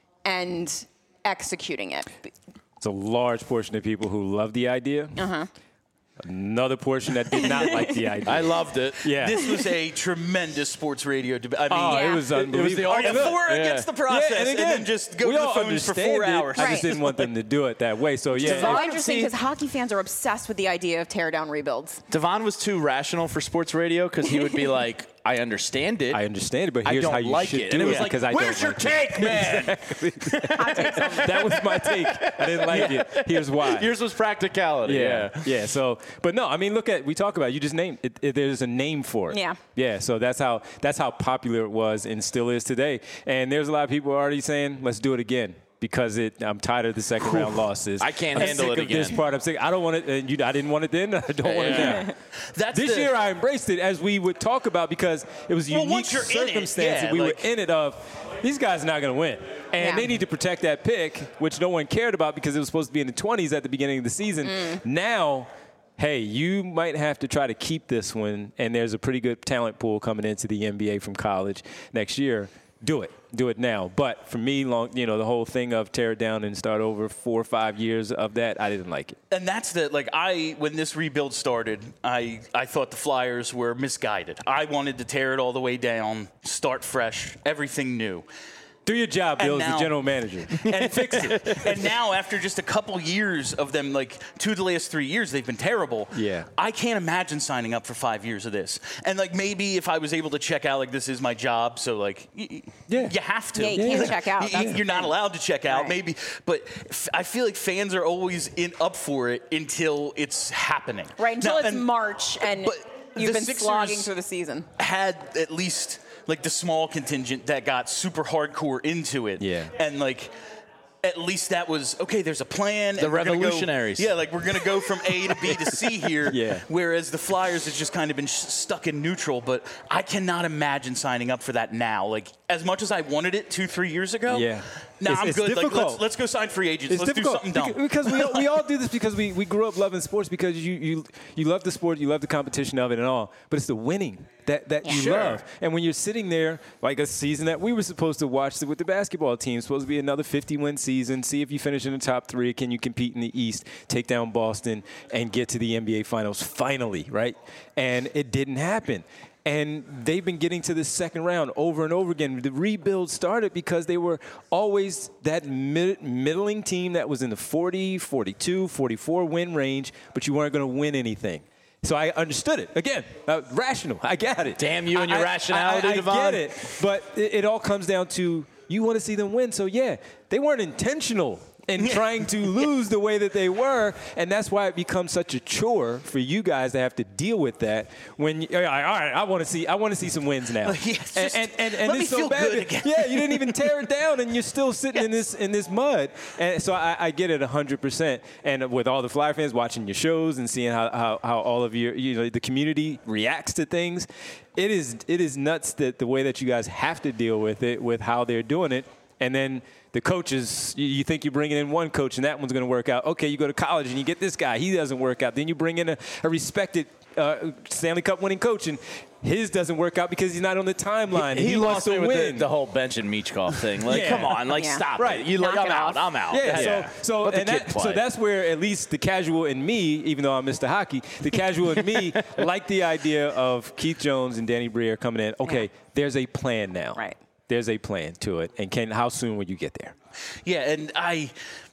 and executing it? It's a large portion of people who love the idea. Uh-huh. Another portion that did not like the idea. I loved it. yeah. This was a tremendous sports radio debate. I mean, Oh, Yeah. it was It- it was unbelievable. the are you ultimate- for or Yeah. against the process, Yeah, and, again, then just go we to the all phones for understand four it. hours? I Right. just didn't want them to do it that way. So yeah, Well, Devon- interesting see- because hockey fans are obsessed with the idea of tear down rebuilds. Devon was too rational for sports radio, because he would be like, I understand it. I understand it, but I here's don't how you like should it. do And it was it like, because I where's don't your like take, man? it. That was my take. I didn't like it. Here's why. Yours was practicality. Yeah, Yeah. yeah. So, but no, I mean, look at we talk about it, you just named it, it. There's a name for it. Yeah. Yeah. So that's how that's how popular it was and still is today. And there's a lot of people already saying, let's do it again. Because it, I'm tired of the second round losses. I can't I'm handle sick it of This again. part, I'm sick. I don't want it. And you, I didn't want it then. I don't want it Yeah. now. That's This the- year I embraced it, as we would talk about, because it was a Well, unique once you're in it, circumstance yeah, that we like- were in it of. These guys are not going to win, and Yeah. they need to protect that pick, which no one cared about because it was supposed to be in the twenties at the beginning of the season. Mm. Now. Hey, you might have to try to keep this one, and there's a pretty good talent pool coming into the N B A from college next year. Do it. do it now. But for me, long, you know, the whole thing of tear it down and start over four or five years of that, I didn't like it. And that's the, like, I, when this rebuild started, I, I thought the Flyers were misguided. I wanted to tear it all the way down, start fresh, everything new. Do your job, Bill, as now, the general manager. And fix it. And now, after just a couple years of them, like two of the last three years, they've been terrible. Yeah. I can't imagine signing up for five years of this. And, like, maybe if I was able to check out, like, this is my job, so, like, y- Yeah. you have to. Yeah, you can't check out. Y- That's the You're not thing. allowed to check out, Right. maybe. But f- I feel like fans are always in up for it until it's happening. Right, until Now, it's and- March and but you've the been Sixers slogging through the season. had at least like the small contingent that got super hardcore into it. Yeah. And like at least that was okay, there's a plan. The and we're gonna go- revolutionaries. yeah, like we're going to go from A to B to C here. Yeah. Whereas the Flyers has just kind of been sh- stuck in neutral. But I cannot imagine signing up for that now. Like as much as I wanted it two, three years ago. Yeah. Now It's- I'm it's good. Like difficult. let's, let's go sign free agents. It's let's difficult do something dumb. because we all, we all do this because we, we grew up loving sports because you, you you love the sport, you love the competition of it and all, but it's the winning that, that you Sure. love. And when you're sitting there, like a season that we were supposed to watch with the basketball team, supposed to be another fifty-win season, see if you finish in the top three, can you compete in the East, take down Boston, and get to the N B A Finals finally, right? And it didn't happen. And they've been getting to the second round over and over again. The rebuild started because they were always that mid- middling team that was in the forty, forty-two, forty-four win range, but you weren't going to win anything. So I understood it. Again, uh, rational. I got it. Damn you and your I- rationality, I, I, I Devon. get it. But it, it all comes down to you want to see them win. So, yeah, they weren't intentional in trying to lose the way that they were, and that's why it becomes such a chore for you guys to have to deal with that. When you, all right, all right, I want to see, I want to see some wins now. Yeah, it's and just- and, and, and let me it's so feel bad. good that- again. Yeah, you didn't even tear it down, and you're still sitting in Yes. this in this mud. And so I, I get it one hundred percent. And with all the Flyer fans watching your shows and seeing how, how, how all of your, you know, the community reacts to things, it is it is nuts that the way that you guys have to deal with it, with how they're doing it, and then. The coaches, you, you think you're bringing in one coach and that one's going to work out. Okay, you go to college and you get this guy. He doesn't work out. Then you bring in a, a respected uh, Stanley Cup winning coach and his doesn't work out because he's not on the timeline. He, and he, lost wants to me with win. the, the whole bench and Michkov thing. Like, Yeah. come on, like, Yeah. stop Right. it. You like, Knock I'm it out. off. I'm out. Yeah, Yeah. so so Let the and kid that, play. so that's where at least the casual in me, even though I'm Mister Hockey, the casual in me like the idea of Keith Jones and Danny Briere coming in. Okay, Yeah. there's a plan now. Right. There's a plan to it, and can how soon will you get there? Yeah, and I,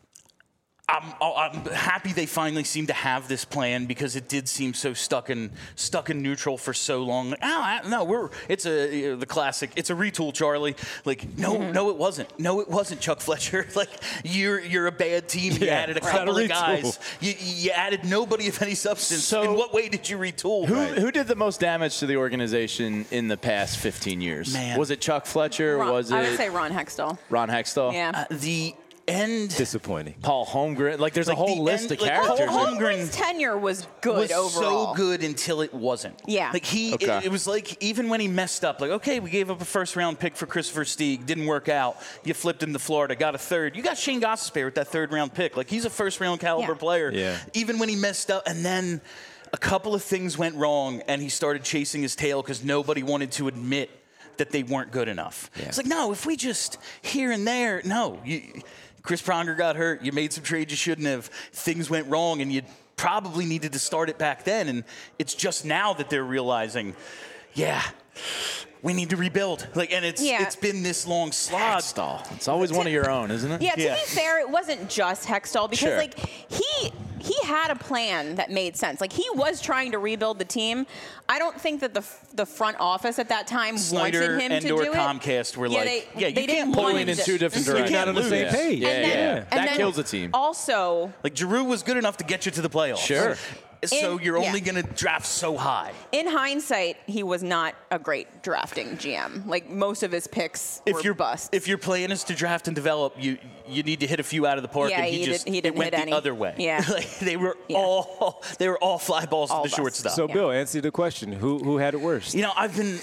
I'm, I'm happy they finally seem to have this plan because it did seem so stuck in stuck in neutral for so long. Like, oh, I- no, we're it's a you know, the classic. It's a retool, Charlie. Like, no, Mm-hmm. no, it wasn't. No, it wasn't, Chuck Fletcher. Like, you're you're a bad team. You Yeah, added a it's not a couple of retool. guys. You, you added nobody of any substance. So- in what way did you retool? Who, who did the most damage to the organization in the past fifteen years? Man. Was it Chuck Fletcher? Ron, was it I would say Ron Hextall. Ron Hextall? Yeah. Uh, the end Disappointing. Paul Holmgren? Like, there's Like, a whole the list end- of like, characters. Paul that- Holmgren- Holmgren's tenure was good was overall. so good until it wasn't. Yeah. Like he, Okay. it, it was like even when he messed up, like okay, we gave up a first round pick for Christopher Stieg, didn't work out. You flipped him to Florida, got a third. You got Shane Gostisbehere with that third round pick. Like he's a first round caliber Yeah. player. Yeah. Even when he messed up, and then a couple of things went wrong, and he started chasing his tail because nobody wanted to admit that they weren't good enough. Yeah. It's like no, if we just here and there, no. You, Chris Pronger got hurt. You made some trades you shouldn't have. Things went wrong, and you probably needed to start it back then. And it's just now that they're realizing, yeah, we need to rebuild. Like, and it's Yeah. it's been this long slog. Hextall. It's always one of your own, isn't it? Yeah, to Yeah. be fair, it wasn't just Hextall because Sure. like he he had a plan that made sense. Like he was trying to rebuild the team. I don't think that the the front office at that time Snyder wanted him and to or do Comcast were it. Yeah, like, they, yeah, you they can't didn't pull want Pulling him in to- two different You directions. can't Not on the same lose. page. Yeah, And then- yeah. and That then kills a team. Also, Like Giroux was good enough to get you to the playoffs. Sure. So In- you're only yeah. going to draft so high. in hindsight, he was not a great drafting G M. Like most of his picks If were your busts. if your plan is to draft and develop, you you need to hit a few out of the park. Yeah, and he, he just did- he it didn't went hit the any. other way. Yeah. like they were Yeah. all they were all fly balls All to the busts. shortstop. So, Yeah. Bill, answer the question. Who who had it worst? You know, I've been.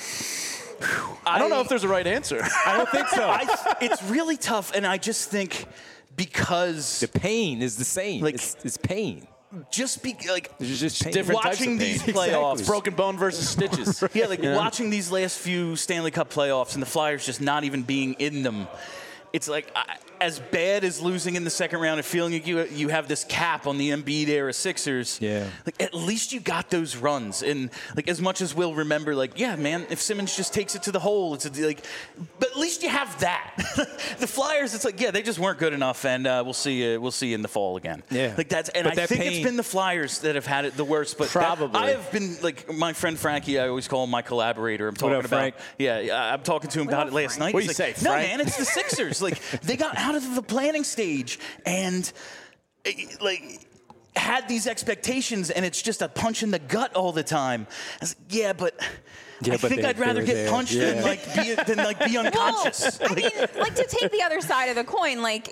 I don't know if there's a right answer. I don't think so. I, it's really tough, and I just think because the pain is the same. Like- it's, it's pain. just be like There's just pain. different types watching of pain. these playoffs. Exactly. Broken bone versus stitches. Yeah, like watching these last few Stanley Cup playoffs and the Flyers just not even being in them. It's like I, as bad as losing in the second round and feeling like you you have this cap on the Embiid era Sixers. Yeah. Like at least you got those runs, and like as much as we'll remember, like yeah, man, if Simmons just takes it to the hole, it's a, like, but at least you have that. The Flyers, it's like yeah, they just weren't good enough, and uh, we'll see. Uh, we'll see in the fall again. Yeah. Like that's, and But I that think pain- it's been the Flyers that have had it the worst. But that- Probably. I have been like my friend Frankie. I always call him my collaborator. I'm talking up, about. Frank? Yeah, I- I'm talking to him What about up, it last Frank? night. What do He's you like, say, no, Frank? man, it's the Sixers. Like they got out of the planning stage and eh, like had these expectations, and it's just a punch in the gut all the time. I was like, yeah, but. Yeah, I but think they- I'd rather they were get there. punched Yeah. than like be than like be unconscious. Well, I mean, like to take the other side of the coin, like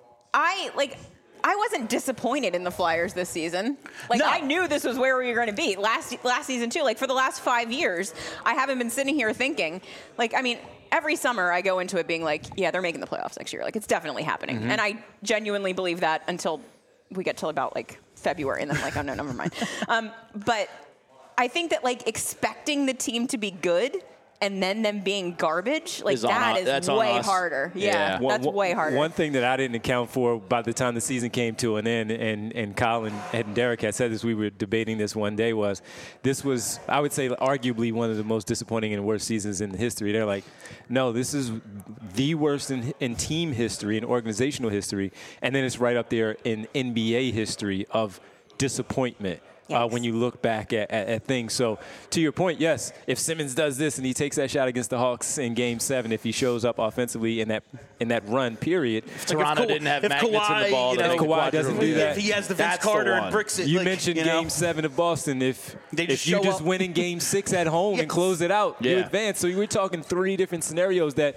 I like I wasn't disappointed in the Flyers this season. Like No. I knew this was where we were going to be last last season too. Like for the last five years, I haven't been sitting here thinking, like I mean. Every summer, I go into it being like, yeah, they're making the playoffs next year. Like, it's definitely happening. Mm-hmm. And I genuinely believe that until we get till about, like, February. And then I'm like, oh, no, never mind. um, but I think that, like, expecting the team to be good and then them being garbage, like, Is on that us- is that's on way us. harder. Yeah, Yeah. One- that's one- way harder. One thing that I didn't account for by the time the season came to an end, and, and Colin and Derek had said this, we were debating this one day, was this was, I would say, arguably one of the most disappointing and worst seasons in history. They're like, no, this is the worst in, in team history, in organizational history, and then it's right up there in N B A history of disappointment. Uh, Yes. when you look back at, at, at things. So to your point, yes, if Simmons does this and he takes that shot against the Hawks in Game Seven, if he shows up offensively in that in that run period, If Toronto Ka- didn't have if magnets in Kawhi, the ball, you they know, could Kawhi doesn't do quadruple that. If he has the Vince That's the Carter one. and bricks it, you like, mentioned you know? Game Seven of Boston. If They just if you show just up. win in Game Six at home and Yes. close it out, you Yeah. advance. So we're talking three different scenarios that,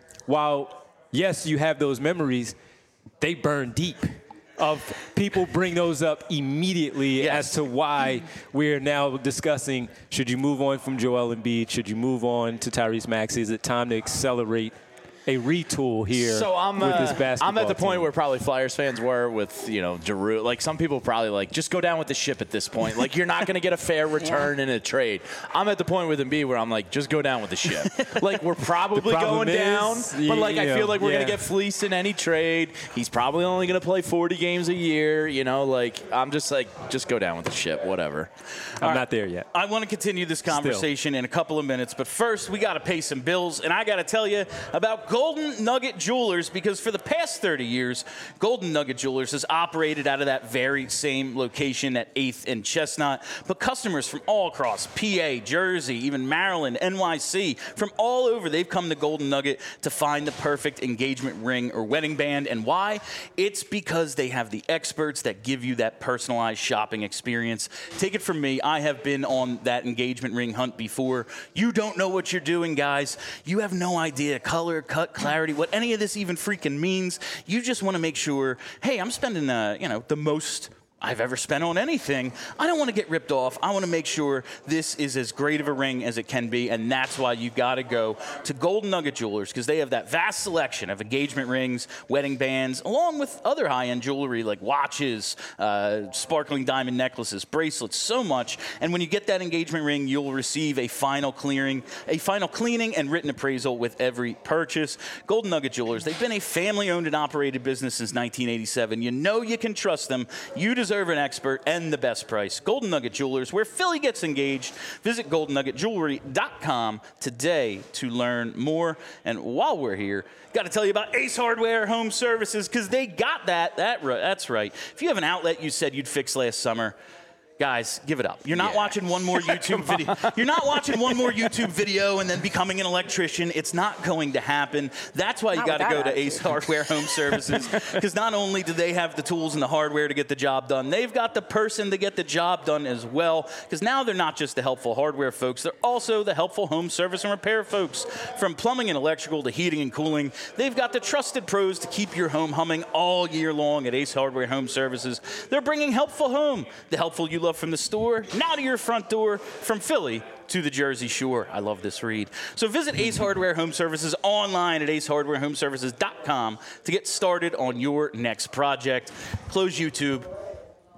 while yes, you have those memories, they burn deep. Of people bring those up immediately Yes. as to why we're now discussing, should you move on from Joel Embiid? Should you move on to Tyrese Maxey? Is it time to accelerate a retool here So I'm, with uh, this basketball I'm at the point team? where probably Flyers fans were with, you know, Giroux. Like, some people probably like, just go down with the ship at this point. Like, you're not going to get a fair return in a trade. I'm at the point with Embiid where I'm like, just go down with the ship. Like, we're probably problem going down, is, but, like, you I know, feel like we're yeah. going to get fleeced in any trade. He's probably only going to play forty games a year, you know? Like, I'm just like, just go down with the ship, whatever. I'm not there yet. I want to continue this conversation in a couple of minutes, but first we got to pay some bills, and I got to tell you about Golden Nugget Jewelers, because for the past thirty years, Golden Nugget Jewelers has operated out of that very same location at eighth and Chestnut, but customers from all across P A, Jersey, even Maryland, N Y C, from all over, they've come to Golden Nugget to find the perfect engagement ring or wedding band. And why? It's because they have the experts that give you that personalized shopping experience. Take it from me, I have been on that engagement ring hunt before. You don't know what you're doing, guys. You have no idea color, cut, clarity, what any of this even freaking means. You just want to make sure, hey, I'm spending, uh, you know, the most I've ever spent on anything. I don't want to get ripped off. I want to make sure this is as great of a ring as it can be, and that's why you got to go to Golden Nugget Jewelers, because they have that vast selection of engagement rings, wedding bands, along with other high-end jewelry like watches, uh, sparkling diamond necklaces, bracelets, so much. And when you get that engagement ring, you'll receive a final clearing, a final cleaning and written appraisal with every purchase. Golden Nugget Jewelers, they've been a family-owned and operated business since nineteen eighty-seven. You know you can trust them. You deserve an expert and the best price. Golden Nugget Jewelers, where Philly gets engaged. Visit golden nugget jewelry dot com today to learn more. And while we're here, got to tell you about Ace Hardware Home Services, because they got that. That That's right. If you have an outlet you said you'd fix last summer, guys, give it up. You're not Yeah. watching one more YouTube video. You're not watching one more YouTube video and then becoming an electrician. It's not going to happen. That's why you Not got to with go that to Ace Hardware Home Services, because not only do they have the tools and the hardware to get the job done, they've got the person to get the job done as well, because now they're not just the helpful hardware folks, they're also the helpful home service and repair folks. From plumbing and electrical to heating and cooling, they've got the trusted pros to keep your home humming all year long at Ace Hardware Home Services. They're bringing helpful home, the helpful you love from the store, now to your front door, from Philly to the Jersey Shore. I love this read. So visit Ace Hardware Home Services online at ace hardware home services dot com to get started on your next project. Close YouTube.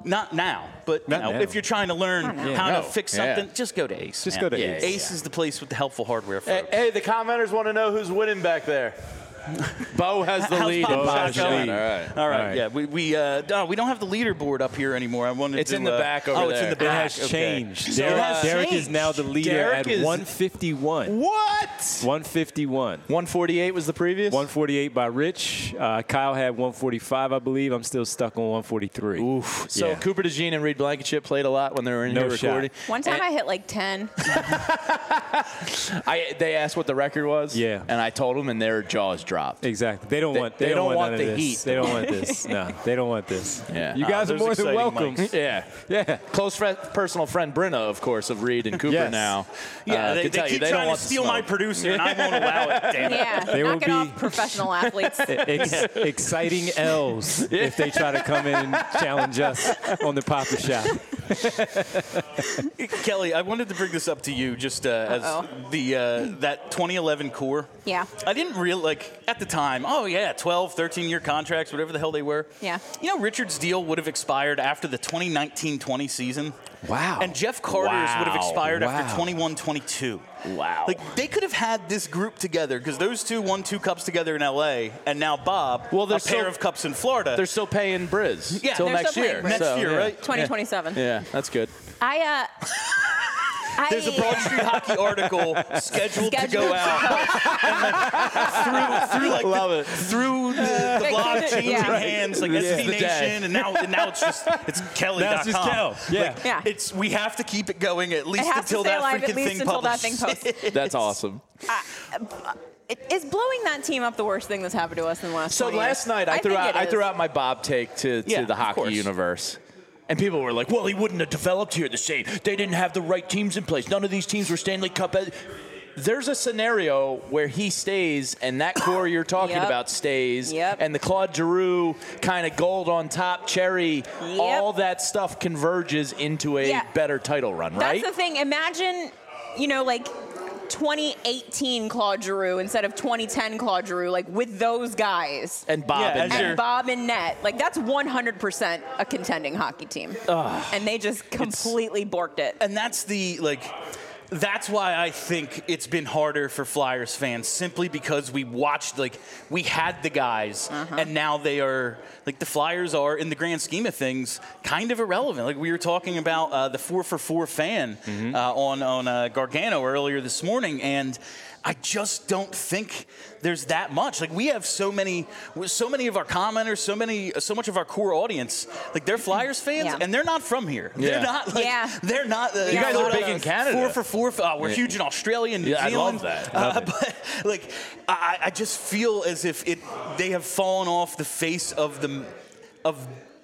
Not now, but Not you know, now. if you're trying to learn Yeah, how no. to fix Yeah. something, just go to Ace. Just man. go to Yeah, Ace. Ace is the place with the helpful hardware Hey, folks. hey, the commenters want to know who's winning back there. Bo has the How's lead. Papa in Bo Shot has the going? lead. All right. All right, All right. yeah, we we uh, no, we don't have the leaderboard up here anymore. I wanted It's to, in the uh, back over oh, it's in the there. It back. has okay. changed. So, Derek, uh, Derek is changed. now the leader Derek at is- one fifty-one. What? one fifty-one. one forty-eight was the previous? one forty-eight by Rich. Uh, Kyle had one forty-five, I believe. I'm still stuck on one forty-three. Oof. So Yeah. Cooper DeJean and Reed Blankenship played a lot when they were in No here shot. recording. One time And I hit like ten. I, they asked what the record was. Yeah. And I told them, and their jaws dropped. Exactly. They don't They- want. They, they don't, don't want, want none the of this. heat. They don't want this. No, they don't want this. Yeah. You Uh, guys are those more than exciting welcome. mics. Yeah. Yeah. Close friend, personal friend Brenna, of course, of Reed and Cooper Yes. now. Yeah, uh, they, can they tell you, keep they don't trying to want the steal my smoke. producer, and I won't allow it. Damn it. Yeah, They will knock it be- off, professional athletes. Ex- exciting L's if they try to come in and challenge us on the Papa Shop. Kelly, I wanted to bring this up to you just uh, as Uh-oh. the uh, that twenty eleven core. Yeah. I didn't real like at the time. Oh yeah, twelve, thirteen year contracts, whatever the hell they were. Yeah. You know, Richard's deal would have expired after the twenty nineteen twenty season. Wow. And Jeff Carter's would have Wow. expired Wow. after twenty-one twenty-two. Wow. Like they could have had this group together because those two won two cups together in L A, and now Bob, Well, a they're pair still- of cups in Florida. They're still paying Briz Yeah, till they're next still year. paying Briz. Next So, year, yeah. right? twenty twenty-seven. Yeah, that's good. I uh. I, There's a Broad Street Hockey article scheduled, to Scheduled go out through, through like Love the, it. through the, the blog changing Yeah. hands like This S is B the day. Nation, and now and now it's just it's Kelly dot Now it's com. just Kel. Yeah. Yeah. It's we have to keep it going at least it has until to stay that alive freaking at least thing until that publishes. thing posts. That's awesome. Is blowing that team up the worst thing that's happened to us in the last So twenty last years? night I, threw think out it I is. threw out my Bob take to, to Yeah, the of hockey course. universe. And people were like, well, he wouldn't have developed here the same. They didn't have the right teams in place. None of these teams were Stanley Cup. There's a scenario where he stays and that core you're talking Yep. about stays. Yep. And the Claude Giroux kind of gold on top cherry, Yep. all that stuff converges into a Yeah. better title run, right? That's the thing. Imagine, you know, like twenty eighteen Claude Giroux instead of twenty ten Claude Giroux, like with those guys. and Bob Yeah, and as Matt. your- And Bob and Net, like that's one hundred percent a contending hockey team, and they just completely borked it. And that's the like that's why I think it's been harder for Flyers fans simply because we watched like we had the guys Uh-huh. and now they are like the Flyers are in the grand scheme of things kind of irrelevant. Like we were talking about uh, the four for four fan Mm-hmm. uh, on on uh, Gargano earlier this morning, and I just don't think there's that much. Like we have so many, so many of our commenters, so many, so much of our core audience. Like they're Flyers fans, Yeah. and they're not from here. Yeah. They're not. Like, Yeah. They're not. Uh, You guys are big in Canada. Four for four. Uh, we're huge in Australia and New Yeah, I Zealand. love that. Uh, but like, I, I just feel as if it they have fallen off the face of the of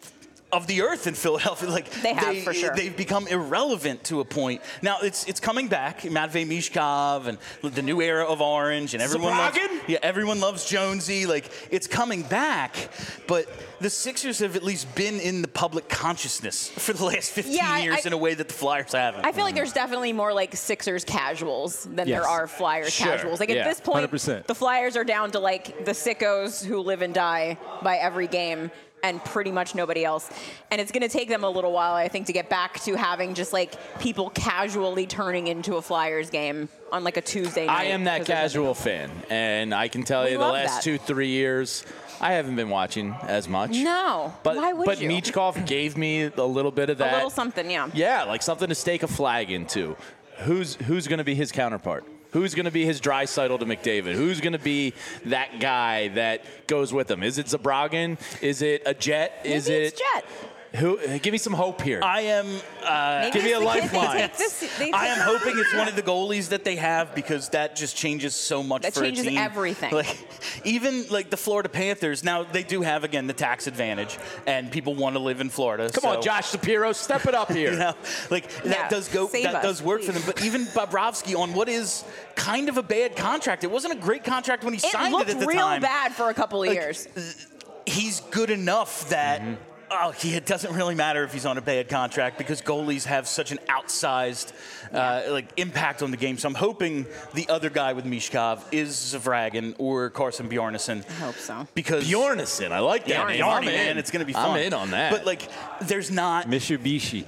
of the earth in Philadelphia. Like They have, for sure. They've become irrelevant to a point. Now it's it's coming back. Matvei Mishkov and the new era of Orange and everyone loves, Zabragin? yeah, everyone loves Jonesy. Like it's coming back, but the Sixers have at least been in the public consciousness for the last fifteen Yeah, I- years I- in a way that the Flyers haven't. I feel like there's definitely more like Sixers casuals than Yes. there are Flyers Sure, casuals. Like yeah, at this point, one hundred percent. the Flyers are down to like the sickos who live and die by every game and pretty much nobody else. And it's going to take them a little while, I think, to get back to having just like people casually turning into a Flyers game on like a Tuesday night. I am that 'cause there's casual fan, and I can tell We you the love last that. two, three years, I haven't been watching as much. No. But, Why would but you? Michkov gave me a little bit of that. a little something, yeah. Yeah, like something to stake a flag into. Who's who's going to be his counterpart? Who's going to be his Draisaitl to McDavid? Who's going to be that guy that goes with him? Is it Zabragin? Is it a Jet? Maybe Is it's it Jet. who? Give me some hope here. I am. Uh, Maybe give me it's a the kid they lifeline. take this- they I take- am hoping it's one of the goalies that they have because that just changes so much That for changes a team. everything. Like even like the Florida Panthers. Now they do have again the tax advantage, and people want to live in Florida. Come so, on, Josh Shapiro, step it up here. You know, like Yeah, that does go. save That us, does work for please. them. But even Bobrovsky on what is kind of a bad contract. It wasn't a great contract when he It signed looked it at the real time. bad for a couple of Like, years. He's good enough that. oh, he, it doesn't really matter if he's on a bad contract because goalies have such an outsized uh, like impact on the game. So I'm hoping the other guy with Mishkov is Zavragin or Carson Bjarnason. I hope so. Because Bjarnason, I like that. Yeah, name. Bjarny, I'm man, in. it's going to be fun. I'm in on that. But like, there's not. Mitsubishi.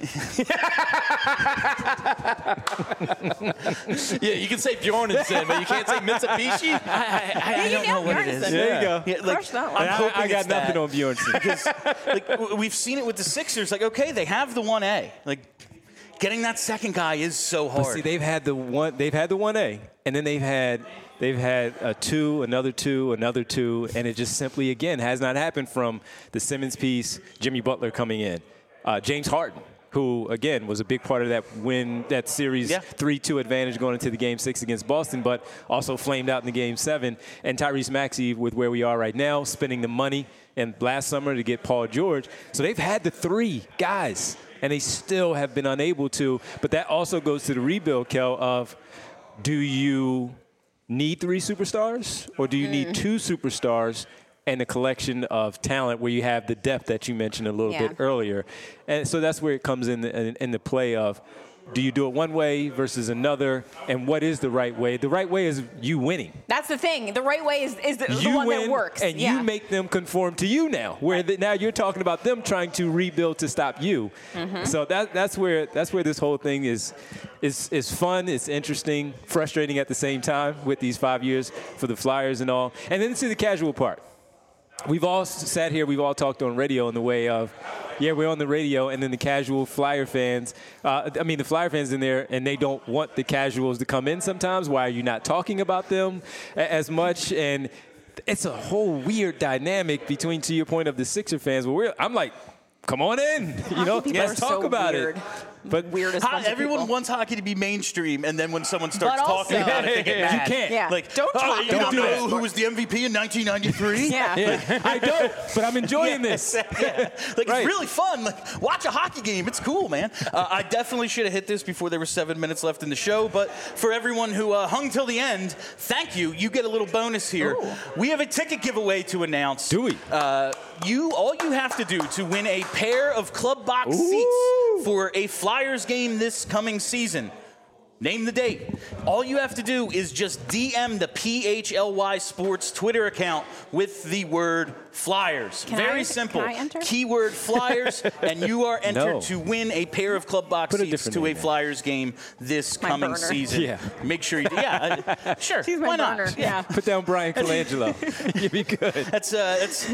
Yeah, you can say Bjarnason, but you can't say Mitsubishi. I, I, I, Yeah, I you don't know know what it Bjarnason. is. There you go. Yeah, like, Crush that one. I'm I, hoping I got it's nothing that. on Bjornsson. Like w- we've seen it with the Sixers. Like, okay, they have the one A. Like, getting that second guy is so hard. But see, they've had the one. They've had the one A, and then they've had they've had a two, another two, another two, and it just simply again has not happened from the Simmons piece. Jimmy Butler coming in, uh, James Harden, who again was a big part of that win, that series Yeah. three two advantage going into the game six against Boston, but also flamed out in the game seven. And Tyrese Maxey, with where we are right now, spending the money and last summer to get Paul George. So they've had the three guys, and they still have been unable to. But that also goes to the rebuild, Kel, of do you need three superstars or do you need two superstars and a collection of talent where you have the depth that you mentioned a little Yeah. bit earlier? And so that's where it comes in the, in, in the play of, do you do it one way versus another, and what is the right way? The right way is you winning. That's the thing. The right way is, is the, the You one win, that works. and yeah. you make them conform to you now. Where the, now you're talking about them trying to rebuild to stop you. Mm-hmm. So that that's where that's where this whole thing is is is fun. It's interesting, frustrating at the same time with these five years for the Flyers and all. And then to the casual part. We've all sat here, we've all talked on radio in the way of, yeah, we're on the radio, and then the casual Flyer fans, uh, I mean, the Flyer fans in there, and they don't want the casuals to come in sometimes. Why are you not talking about them a- as much? And it's a whole weird dynamic between, to your point, of the Sixer fans. Where we're, I'm like, come on in, you know, people let's are talk so about weird. it. But Weirdest Ho- bunch of everyone people. wants hockey to be mainstream, and then when someone starts But talking also- about it, they get You mad. can't. Yeah. Like, Don't oh, talk you about don't know that. who was the M V P in nineteen ninety-three? Yeah. yeah, I don't, but I'm enjoying this. yeah. Like, Right. it's really fun. Like, watch a hockey game. It's cool, man. Uh, I definitely should have hit this before there were seven minutes left in the show, but for everyone who uh, hung till the end, thank you. You get a little bonus here. Ooh. We have a ticket giveaway to announce. Do we? Uh, you, all you have to do to win a pair of club box Ooh. seats for a Flyers game this coming season. Name the date. All you have to do is just D M the P H L Y Sports Twitter account with the word Flyers. Can Very I- simple. can I enter? Keyword Flyers, and you are entered No. to win a pair of club box Put a seats different to a name there. Flyers game this My coming burner. season. Yeah. Make sure you do. Yeah, uh, sure. She's my Why not? burner. Yeah. Put down Brian Colangelo. You'd be good. That's uh, that's.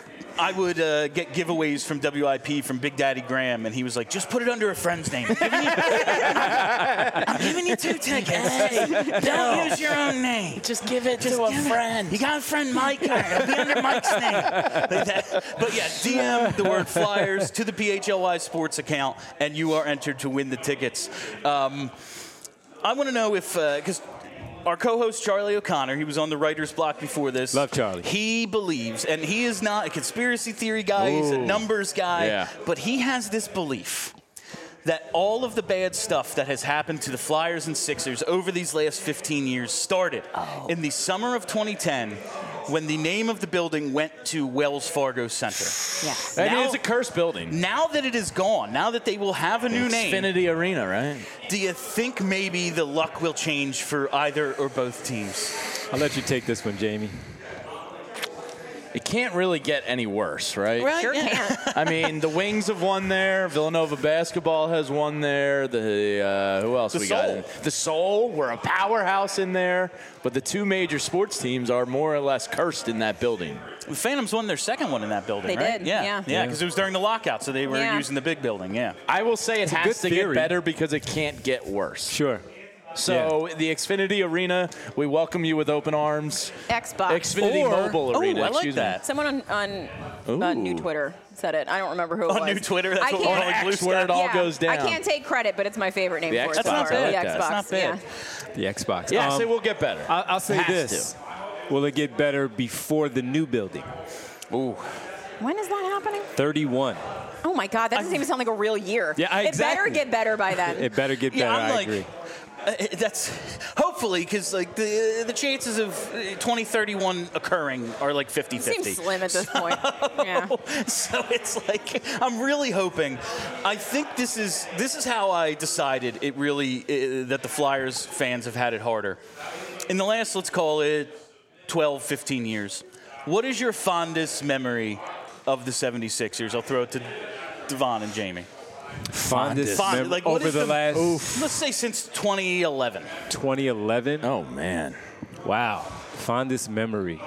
I would uh, get giveaways from W I P from Big Daddy Graham, and he was like, "Just put it under a friend's name." I'm giving you, I'm giving you two tickets. Hey, don't use your own name. Just give it Just to a give it- friend. You got a friend, Mike? All right, it'll be under Mike's name. Like that. But yeah, D M the word Flyers to the P H L Y Sports account, and you are entered to win the tickets. Um, I want to know if because. Our co-host Charlie O'Connor, he was on the writer's block before this. Love Charlie. He believes, and he is not a conspiracy theory guy, he's a numbers guy, Yeah. but he has this belief that all of the bad stuff that has happened to the Flyers and Sixers over these last fifteen years started in the summer of twenty ten when the name of the building went to Wells Fargo Center. Yes. I mean, Now- it's a cursed building. Now that it is gone, now that they will have a new name, Xfinity Arena, right? do you think maybe the luck will change for either or both teams? I'll let you take this one, Jamie. It can't really get any worse, right? Right? Sure Yeah. can't. I mean, the Wings have won there. Villanova basketball has won there. The uh, who else The we Soul. got? The Soul. We're a powerhouse in there. But the two major sports teams are more or less cursed in that building. The Phantoms won their second one in that building, They right? did, Yeah, yeah. yeah, because it was during the lockout, so they were Yeah. using the big building. Yeah. I will say it a has good to theory. get better because it can't get worse. Sure. So the Xfinity Arena, we welcome you with open arms. Xbox. Xfinity Or- Mobile oh, Arena. I like excuse me. that. Someone on, on uh, new Twitter said it. I don't remember who it On was. new Twitter? That's I what can't- we're like Blue X where it all yeah, goes down. I can't take credit, but it's my favorite name The for it. Xbox, so I I'll like go with that. the That's Xbox. not bad. Yeah. The Xbox. Yeah, I Um, say we'll get better. I'll, I'll say Has this. Will it get better before the new building? Ooh. When is that happening? thirty-one. Oh my God, that doesn't even sound like a real year. Yeah, I- It better exactly. get better by then. It better get Yeah, better. I'm I like, agree. uh, that's hopefully hopefully, because like the the chances of twenty thirty-one occurring are like fifty fifty. Seems slim at this point. Yeah. So it's like I'm really hoping. I think this is this is how I decided it really uh, that the Flyers fans have had it harder. In the last, let's call it twelve, fifteen years, what is your fondest memory of the seventy-sixers? I'll throw it to Devon and Jamie. Fondest Fond- mem- like, what over is the, the- last Let's say since twenty eleven. twenty eleven. Oh, man. Wow. Fondest memory.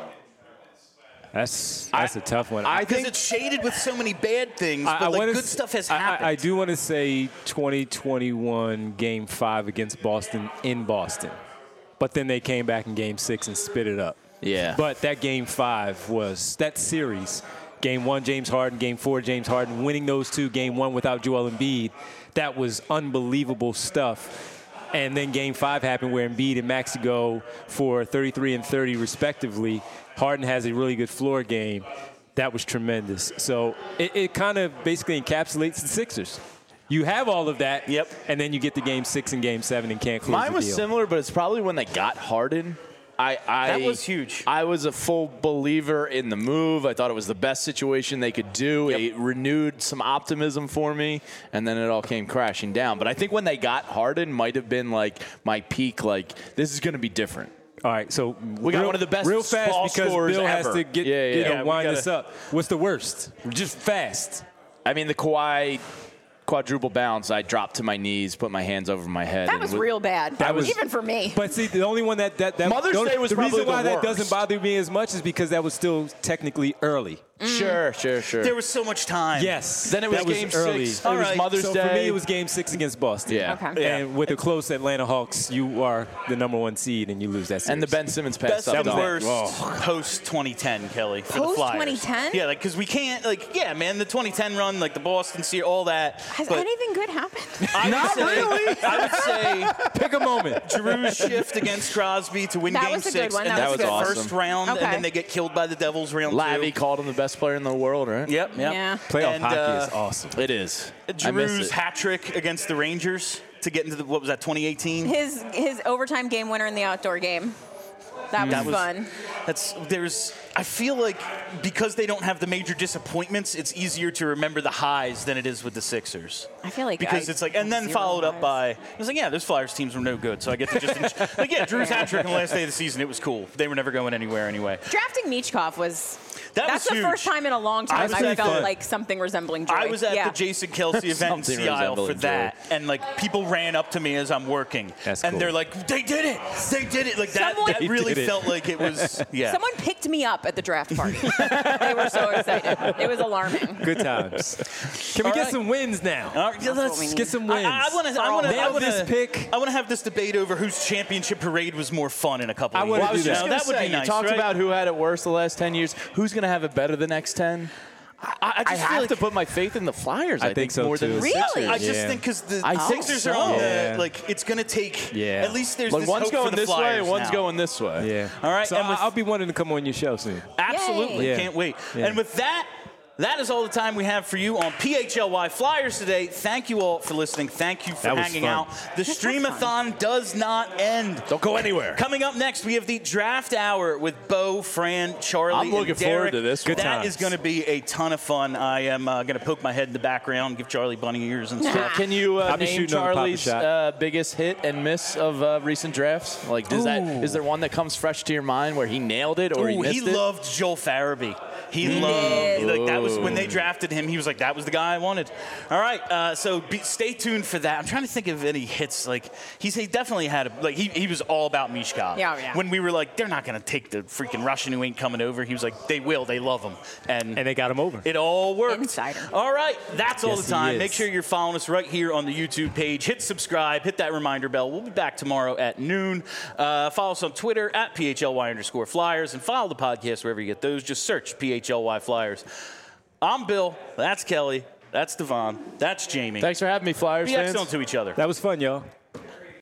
That's that's I- a tough one. I Because think it's shaded with so many bad things, but I like wanna good s- stuff has I- I- happened. I, do want to say twenty twenty-one Game Five against Boston in Boston, but then they came back in Game Six and spit it up. Yeah. But that Game Five was that series. Game One, James Harden. Game Four, James Harden. Winning those two. Game One without Joel Embiid. That was unbelievable stuff. And then Game Five happened where Embiid and Maxey go for thirty-three and thirty respectively. Harden has a really good floor game. That was tremendous. So it, it kind of basically encapsulates the Sixers. You have all of that, Yep. and then you get to Game Six and Game Seven and can't close Mine the was deal. similar, but it's probably when they got Harden. I, I That was huge. I was a full believer in the move. I thought it was the best situation they could do. Yep. It renewed some optimism for me, and then it all came crashing down. But I think when they got Harden might have been like my peak, like, this is going to be different. All right, so We got real, one of the best real fast ball because scorers Bill has ever. to get, Yeah, yeah, you yeah. know, Yeah, we wind gotta- this up. What's the worst? Just fast. I mean, the Kawhi quadruple bounce, I dropped to my knees, put my hands over my head. That and was with- real bad. That was- even for me. But see, the only one that that, that Mother's the only- Day was the reason probably why the that worst. doesn't bother me as much is because that was still technically early. Sure, sure, sure. There was so much time. Yes. Then it was that Game early. Six. All It was right. Mother's So Day. for me, it was Game Six against Boston. Yeah. Okay. Yeah. And with the close Atlanta Hawks, you are the number one seed and you lose that series. And the Ben Simmons pass Best up. and was dunk. worst Whoa. post twenty ten, Kelly, for the Post Flyers. twenty ten? Yeah, like because we can't, like, yeah, man, the twenty ten run, like the Boston series, all that. Has but anything good happened? I would say, I would say Pick a moment. Drew's shift against Crosby to win That Game was a good Six, one. and That that's was the good. first Awesome. round, Okay. and then they get killed by the Devils round Lavi two. called him the best player in the world, right? Yep, yep. Yeah. Playoff And, hockey uh, is awesome. It is. I miss Drew's it. hat trick against the Rangers to get into the, what was that, twenty eighteen? His his overtime game winner in the outdoor game. That was, That was fun. That's there's. I feel like because they don't have the major disappointments, it's easier to remember the highs than it is with the Sixers. I feel like Because I it's like, and then zero followed up highs. by, it was like, yeah, those Flyers teams were no good, so I get to just, enjoy, like, yeah, Drew's hat trick on the last day of the season, it was cool. They were never going anywhere anyway. Drafting Michkov was. That that's was the huge. first time in a long I time was I, at felt the- like something resembling joy. I was at yeah. the Jason Kelsey event in Something Seattle for resembling that, and like people ran up to me as I'm working, That's and cool. they're like, "They did it! They did it!" Like that. Someone- that They really did it. felt like it was. Yeah. Someone picked me up at the draft party. They were so excited. It was alarming. Good times. Can we All get right. some wins now? All right, yeah, That's what let's we need. Get some wins. I want to. I want to. Nail I want this to pick. I want to have this debate over whose championship parade was more fun in a couple. I of wanna years. do was that. just Now, gonna that would say, be nice. You talked right? about who had it worse the last ten years. Who's going to have it better the next ten? I, I I just have feel like, to put my faith in the Flyers. I, I think so, more than too. the Really? Sixers. I just Yeah. think because the I think Sixers so. are on the Yeah. like. It's going to take. Yeah. At least there's Like this one's hope for going the this way, Flyers one's now. going this way. Yeah. All right, So and I- with- I'll be wanting to come on your show soon. Absolutely. Yay. Can't wait. Yeah. And with that, that is all the time we have for you on P H L Y Flyers today. Thank you all for listening. Thank you for That was hanging fun. out. The was Streamathon does not end. Don't go anywhere. Coming up next, we have the draft hour with Bo, Fran, Charlie, I'm looking and Derek. forward to this Good one. That times. is going to be a ton of fun. I am uh, going to poke my head in the background, give Charlie bunny ears and stuff. Can you uh, I'll be name shooting on the Papa Charlie's shot. uh, biggest hit and miss of uh, recent drafts? Like, does that Ooh. is there one that comes fresh to your mind where he nailed it or he Ooh, missed he it? loved Joel Farabee. He, He loved did. like that was when they drafted him. He was like, that was the guy I wanted. All right, uh, so be, stay tuned for that. I'm trying to think of any hits. Like he's he definitely had a, like he, he was all about Mishkov. Yeah, yeah. When we were like, they're not gonna take the freaking Russian who ain't coming over. He was like, they will. They love him, and And they got him over. it all worked. Insider. All right, that's all Yes, the time. he Make is. sure you're following us right here on the YouTube page. Hit subscribe, hit that reminder bell. We'll be back tomorrow at noon. Uh, follow us on Twitter at P H L Y underscore Flyers, and follow the podcast wherever you get those. Just search P H L Y Flyers. I'm Bill. That's Kelly. That's Devon. That's Jamie. Thanks for having me, Flyers Be fans. excellent to each other. That was fun, y'all.